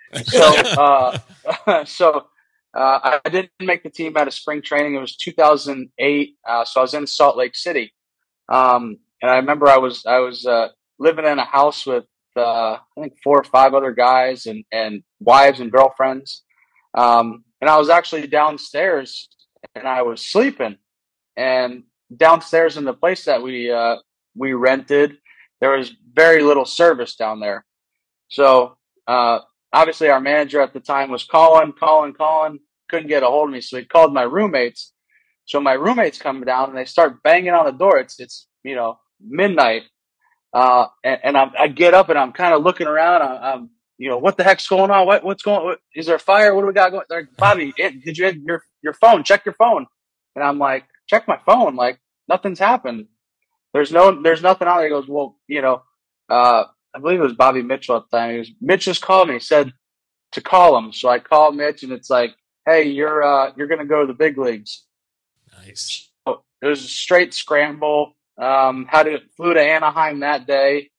So, I didn't make the team out of spring training. It was 2008. So I was in Salt Lake City. And I remember I was living in a house with, I think 4 or 5 other guys and wives and girlfriends. And I was actually downstairs and I was sleeping, and downstairs in the place that we rented, there was very little service down there. So, obviously our manager at the time was calling, couldn't get a hold of me. So he called my roommates. So my roommates come down and they start banging on the door. It's midnight. And I get up and I'm kind of looking around. I'm what the heck's going on? What's going on? Is there a fire? What do we got going? They're like, "Bobby, did you hit your phone? Check your phone." And I'm like, "Check my phone. Like, nothing's happened. There's nothing on there." He goes, "Well, I believe it was Bobby Mitchell at the time. Mitch just called me. He said to call him." So I called Mitch and it's like, "Hey, you're going to go to the big leagues." Nice. So it was a straight scramble. Flew to Anaheim that day.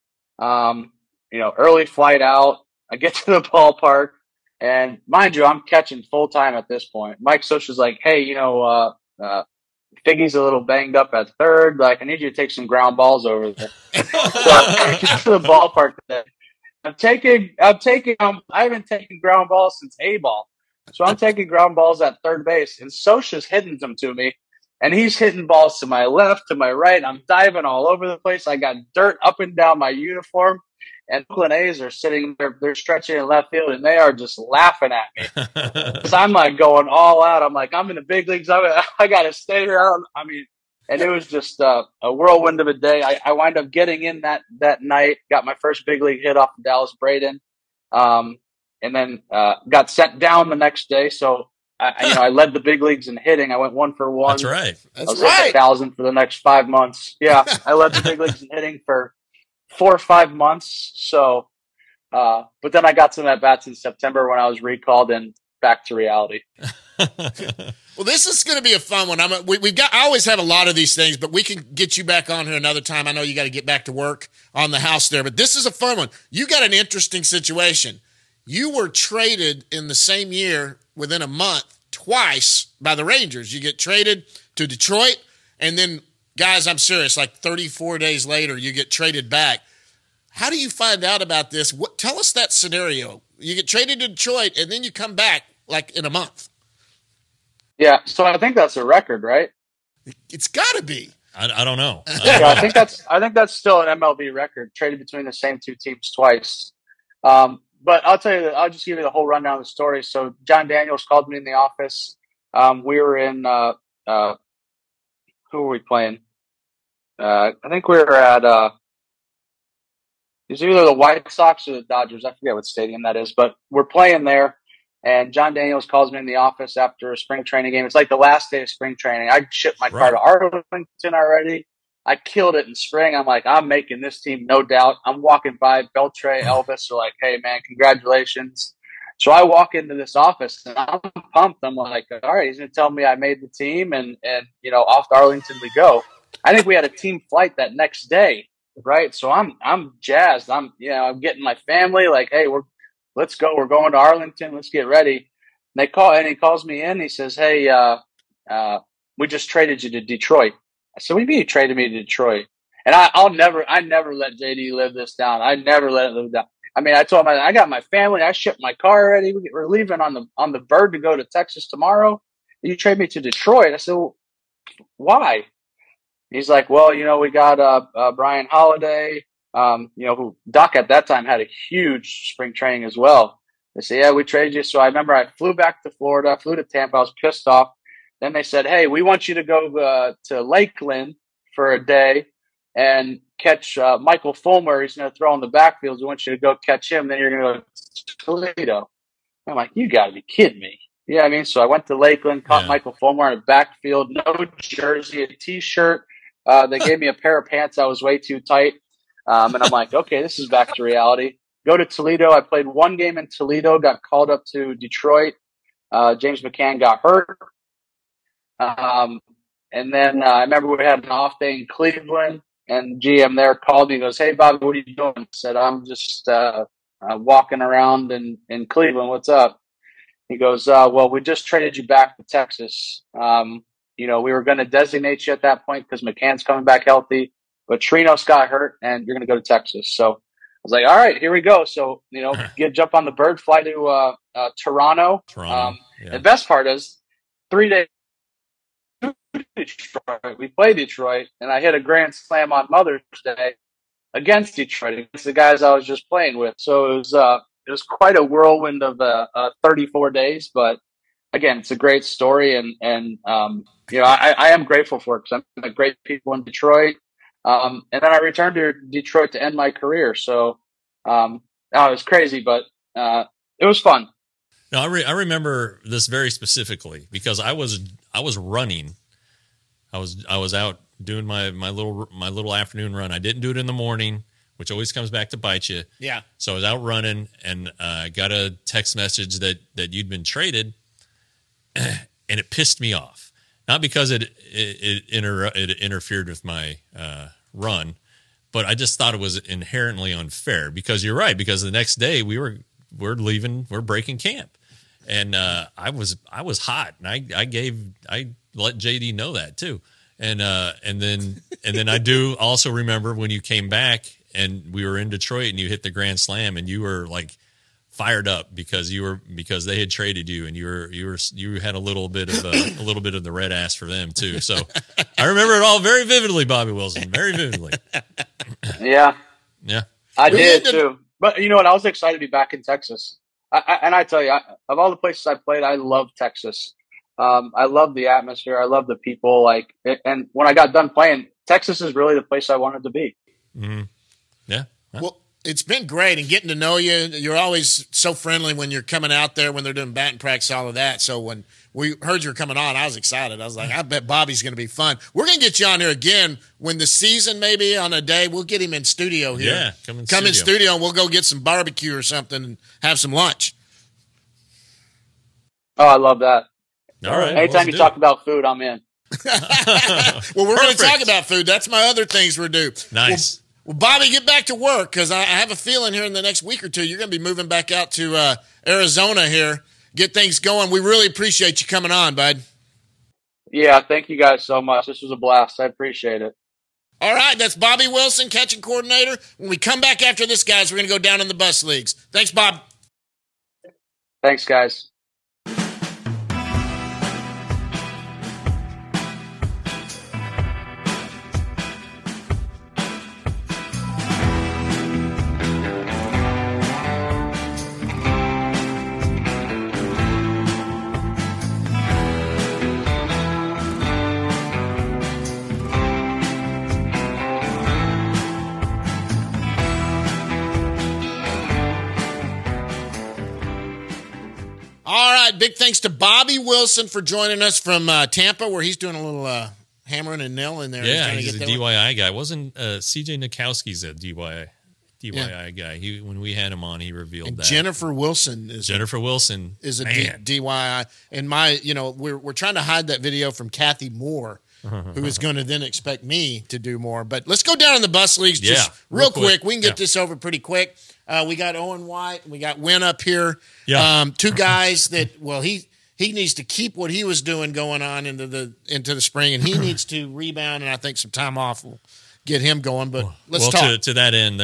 Early flight out. I get to the ballpark, and mind you, I'm catching full time at this point. Mike Scioscia's like, "Hey, Figgy's a little banged up at third. Like, I need you to take some ground balls over there." So I get to the ballpark today. I haven't taken ground balls since A-ball. So I'm taking ground balls at third base, and Scioscia's hitting them to me. And he's hitting balls to my left, to my right. I'm diving all over the place. I got dirt up and down my uniform. And Oakland A's are sitting there, they're stretching in left field, and they are just laughing at me. Because I'm like going all out. I'm like, I'm in the big leagues. I got to stay here. And it was just a whirlwind of a day. I wind up getting in that night, got my first big league hit off of Dallas Braden, and then got sent down the next day. So, I led the big leagues in hitting. I went 1 for 1. That's right. I was at 1,000 for the next 5 months. Yeah, I led the big leagues in hitting for 4 or 5 months. So, but then I got some at bats in September when I was recalled, and back to reality. Well, this is going to be a fun one. I always have a lot of these things, but we can get you back on here another time. I know you got to get back to work on the house there, but this is a fun one. You got an interesting situation. You were traded in the same year within a month twice by the Rangers. You get traded to Detroit, and then, guys, I'm serious, like 34 days later, you get traded back. How do you find out about this? Tell us that scenario. You get traded to Detroit, and then you come back like in a month. Yeah, so I think that's a record, right? It's got to be. I don't know. Yeah, I think that's still an MLB record, traded between the same two teams twice. But I'll tell you, I'll just give you the whole rundown of the story. So John Daniels called me in the office. We were in who were we playing? I think we were at it was either the White Sox or the Dodgers. I forget what stadium that is, but we're playing there. And John Daniels calls me in the office after a spring training game. It's like the last day of spring training. I shipped my car to Arlington already. I killed it in spring. I'm like, I'm making this team, no doubt. I'm walking by. Beltre, Elvis are like, hey, man, congratulations. So I walk into this office, and I'm pumped. I'm like, all right, he's going to tell me I made the team, and off to Arlington we go. I think we had a team flight that next day, right? So I'm jazzed. I'm getting my family like, hey, let's go. We're going to Arlington. Let's get ready. And he calls me in. He says, hey, we just traded you to Detroit. I said, what do you mean you traded me to Detroit? And I never let JD live this down. I never let it live down. I mean, I told him I got my family. I shipped my car already. We're leaving on the bird to go to Texas tomorrow. You trade me to Detroit. I said, well, why? He's like, well, we got Brian Holiday. Who Doc at that time had a huge spring training as well. They said, yeah, we traded you. So I remember I flew back to Florida, flew to Tampa. I was pissed off. Then they said, hey, we want you to go to Lakeland for a day and catch Michael Fulmer. He's going to throw in the backfield. We want you to go catch him. Then you're going to go to Toledo. I'm like, you got to be kidding me. Yeah, I mean, so I went to Lakeland, caught Michael Fulmer in the backfield, no jersey, a T-shirt. They gave me a pair of pants that was way too tight. And I'm like, okay, this is back to reality. Go to Toledo. I played one game in Toledo, got called up to Detroit. James McCann got hurt. And then I remember we had an off day in Cleveland, and the GM there called me and goes, hey, Bobby, what are you doing? I said, I'm just walking around in Cleveland. What's up? He goes, well, we just traded you back to Texas. We were going to designate you at that point because McCann's coming back healthy. But Trinos got hurt, and you're going to go to Texas. So I was like, all right, here we go. So, jump on the bird, fly to Toronto. The best part is 3 days to Detroit. We play Detroit, and I hit a grand slam on Mother's Day against Detroit, against the guys I was just playing with. So it was quite a whirlwind of 34 days. But, again, it's a great story, and I am grateful for it because I met great people in Detroit. And then I returned to Detroit to end my career. So it was crazy, but it was fun. No, I remember this very specifically because I was running. I was out doing my little afternoon run. I didn't do it in the morning, which always comes back to bite you. Yeah. So I was out running, and I got a text message that you'd been traded, and it pissed me off. Not because it interfered with my run, but I just thought it was inherently unfair. Because you're right. Because the next day we're breaking camp, and I was hot, and I let JD know that too, and then I do also remember when you came back and we were in Detroit and you hit the grand slam and you were like fired up because they had traded you and you had a little bit of the red ass for them too. So I remember it all very vividly, Bobby Wilson, very vividly. Yeah, I did too. But you know what? I was excited to be back in Texas. I tell you, of all the places I played, I love Texas. I love the atmosphere. I love the people. And when I got done playing, Texas is really the place I wanted to be. Mm-hmm. Yeah. Well, it's been great, and getting to know you. You're always so friendly when you're coming out there, when they're doing batting practice, all of that. So when we heard you were coming on, I was excited. I was like, I bet Bobby's going to be fun. We're going to get you on here again when the season, maybe on a day, we'll get him in studio here. Yeah, come in studio, and we'll go get some barbecue or something and have some lunch. Oh, I love that. All right. Anytime you talk about food, I'm in. Well, we're going to talk about food. That's my other things we're due. Nice. Well, Bobby, get back to work because I have a feeling here in the next week or two you're going to be moving back out to Arizona here, get things going. We really appreciate you coming on, bud. Yeah, thank you guys so much. This was a blast. I appreciate it. All right, that's Bobby Wilson, catching coordinator. When we come back after this, guys, we're going to go down in the bus leagues. Thanks, Bob. Thanks, guys. All right, big thanks to Bobby Wilson for joining us from Tampa, where he's doing a little hammering and nailing there. Yeah, he's a DYI guy. Wasn't CJ Nikowski's a DYI guy? When we had him on, he revealed and that. Jennifer Wilson is a DYI. And we're trying to hide that video from Kathy Moore, who is going to then expect me to do more. But let's go down in the bus leagues just real quick. We can get this over pretty quick. We got Owen White and we got Wynn up here. Yeah. Two guys that, he needs to keep what he was doing going on into the spring, and he needs to rebound, and I think some time off will get him going. But let's talk. To that end,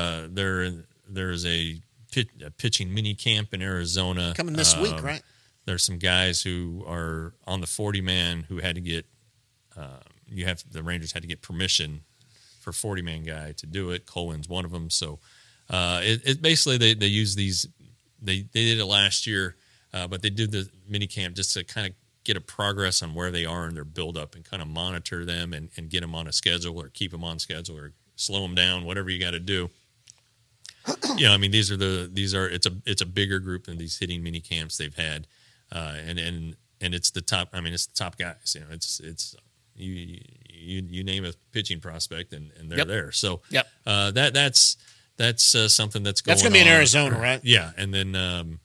there's a pitching mini camp in Arizona coming this week, right? There's some guys who are on the 40-man who had to get the Rangers had to get permission for 40-man guy to do it. Cohen's one of them. So it basically they use these. They did it last year, but they did the mini camp just to kind of get a progress on where they are in their buildup and kind of monitor them and get them on a schedule or keep them on schedule or slow them down, whatever you got to do. I mean, it's a bigger group than these hitting mini camps they've had, and it's the top. I mean, it's the top guys. It's you name a pitching prospect and they're there. So that's something that's going. That's going to be in Arizona, right? Yeah, and then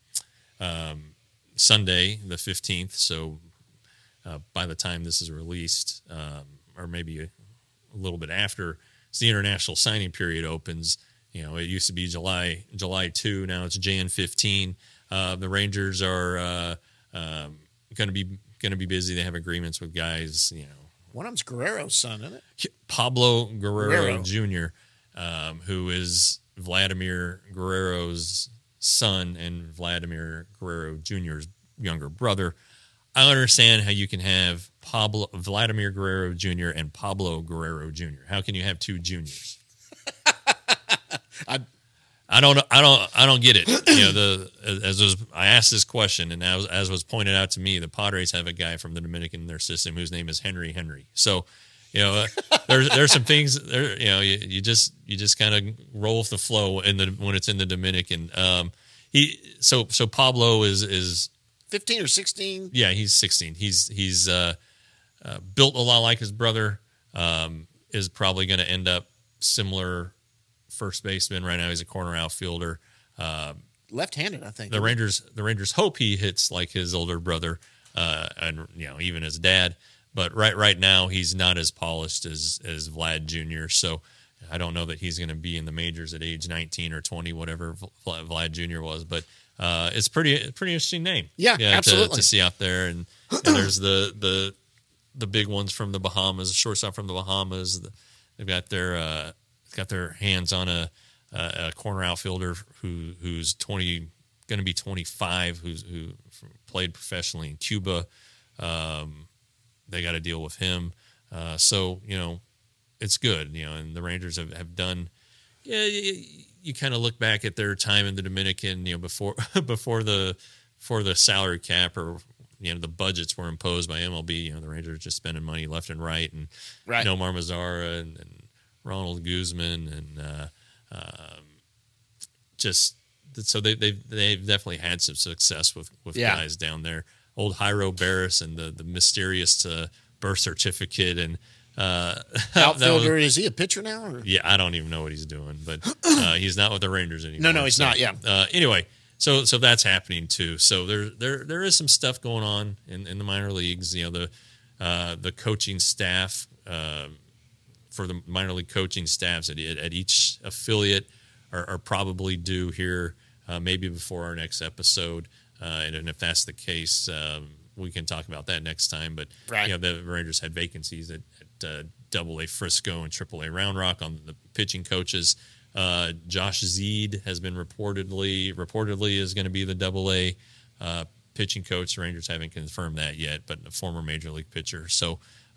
Sunday the 15th. So by the time this is released, or maybe a little bit after, the international signing period opens. It used to be July 2. Now it's Jan 15. The Rangers are going to be busy. They have agreements with guys. One of them's Guerrero's son, isn't it? Pablo Guerrero Jr., who is Vladimir Guerrero's son and Vladimir Guerrero Jr.'s younger brother. I understand how you can have Vladimir Guerrero Jr. and Pablo Guerrero Jr. How can you have two juniors? I don't get it. I asked this question, and as was pointed out to me, the Padres have a guy from the Dominican in their system whose name is Henry. So, there's some things there. You just kind of roll with the flow when it's in the Dominican. So Pablo is 15 or 16. Yeah, he's 16. He's built a lot like his brother. Is probably going to end up similar. First baseman right now. He's a corner outfielder. Left-handed, I think. The Rangers hope he hits like his older brother, and even his dad. But right now he's not as polished as Vlad Jr. So I don't know that he's going to be in the majors at age 19 or 20, whatever Vlad Jr. was. But it's pretty interesting name. Yeah, absolutely to see out there. And there's the big ones from the Bahamas, the shortstop from the Bahamas. They've got their hands on a corner outfielder who's going to be 25, who played professionally in Cuba. They got to deal with him. So it's good. And the Rangers have done. Yeah, you kind of look back at their time in the Dominican. Before the salary cap or the budgets were imposed by MLB. The Rangers are just spending money left and right, and Nomar Mazara and Ronald Guzman and so they've definitely had some success with guys down there. Old Jairo Barris and the mysterious birth certificate and outfielder. Is he a pitcher now? Or? Yeah, I don't even know what he's doing, but he's not with the Rangers anymore. No, he's not. Yeah. Anyway, So that's happening too. So there is some stuff going on in the minor leagues. The coaching staff for the minor league coaching staffs at each affiliate are probably due here maybe before our next episode. And if that's the case, we can talk about that next time. But the Rangers had vacancies at Double-A Frisco and Triple-A Round Rock on the pitching coaches. Josh Zeed has been reportedly is going to be the Double-A pitching coach. The Rangers haven't confirmed that yet, but a former major league pitcher. So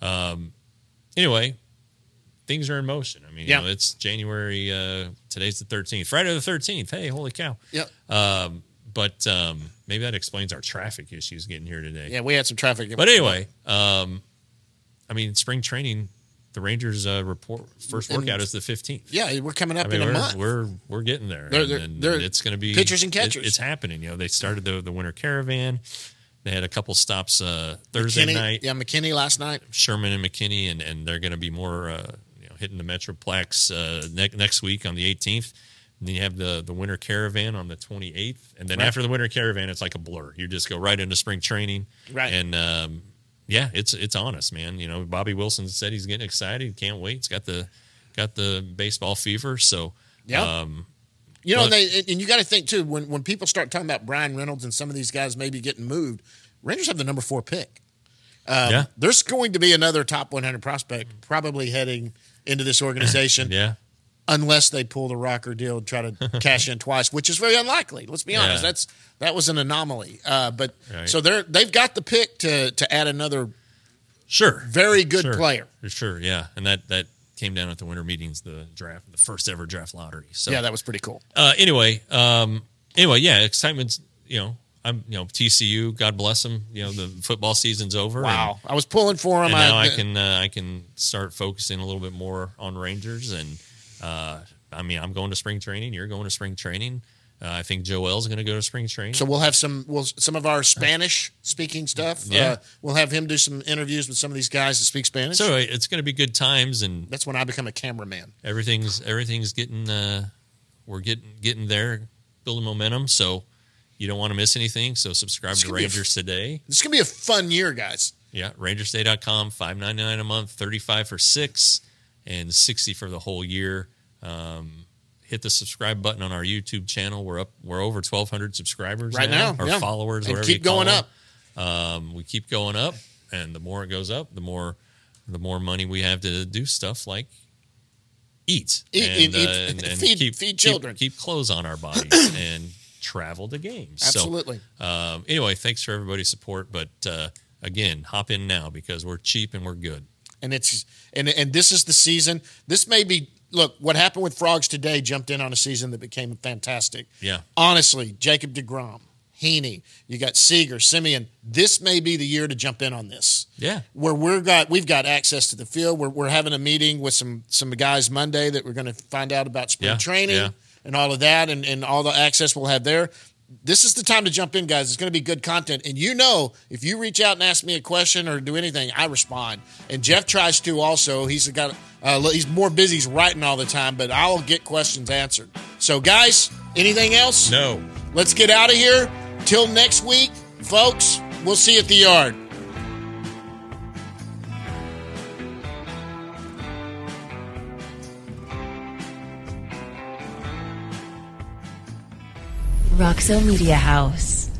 anyway, things are in motion. I mean, it's January. Today's the 13th, Friday the 13th. Hey, holy cow! Yep. But maybe that explains our traffic issues getting here today. Yeah, we had some traffic. But anyway, I mean, spring training. The Rangers first workout is the 15th. Yeah, we're coming up in a month. We're getting there. And it's going to be pitchers and catchers. It's happening. They started the winter caravan. They had a couple stops Thursday night. Yeah, McKinney last night. Sherman and McKinney, and they're going to be more hitting the Metroplex next week on the 18th. And then you have the winter caravan on the 28th, and then after the winter caravan, it's like a blur. You just go right into spring training, right? And it's on us, man. Bobby Wilson said he's getting excited. He can't wait. He's got the baseball fever. So and you got to think too when people start talking about Brian Reynolds and some of these guys maybe getting moved, Rangers have the number 4 pick. There's going to be another top 100 prospect probably heading into this organization. Yeah. Unless they pull the Rocker deal and try to cash in twice, which is very unlikely. Let's be honest. That was an anomaly. So they've got the pick to add another very good player. Sure, yeah. And that came down at the winter meetings, the draft, the first ever draft lottery. So yeah, that was pretty cool. Anyway, excitement's I'm TCU, God bless them. The football season's over. Wow, I was pulling for them. And now I can start focusing a little bit more on Rangers and. I'm going to spring training. You're going to spring training. I think Joel's going to go to spring training. So we'll have some of our Spanish speaking stuff. Yeah. We'll have him do some interviews with some of these guys that speak Spanish. So it's going to be good times, and that's when I become a cameraman. Everything's getting we're getting there, building momentum. So you don't want to miss anything. So subscribe to Rangers Today. This is going to be a fun year, guys. Yeah, RangersToday.com, $5.99 a month, $35 for 6, and $60 for the whole year. Hit the subscribe button on our YouTube channel. We're over 1,200 subscribers right now. Or followers, and whatever keep you call going them. up. We keep going up, and the more it goes up, the more money we have to do stuff like eat and feed children, keep clothes on our bodies, and travel to games. Absolutely. So, anyway, thanks for everybody's support. But again, hop in now because we're cheap and we're good. And this is the season. This may be. Look, what happened with Frogs today jumped in on a season that became fantastic. Yeah. Honestly, Jacob deGrom, Heaney, you got Seager, Simeon. This may be the year to jump in on this. Yeah. Where we've got access to the field. We're having a meeting with some guys Monday that we're going to find out about spring training and all of that and all the access we'll have there. This is the time to jump in, guys. It's going to be good content. And if you reach out and ask me a question or do anything, I respond. And Jeff tries to also. He's more busy. He's writing all the time, but I'll get questions answered. So, guys, anything else? No. Let's get out of here. Till next week, folks, we'll see you at the yard. Roxo Media House.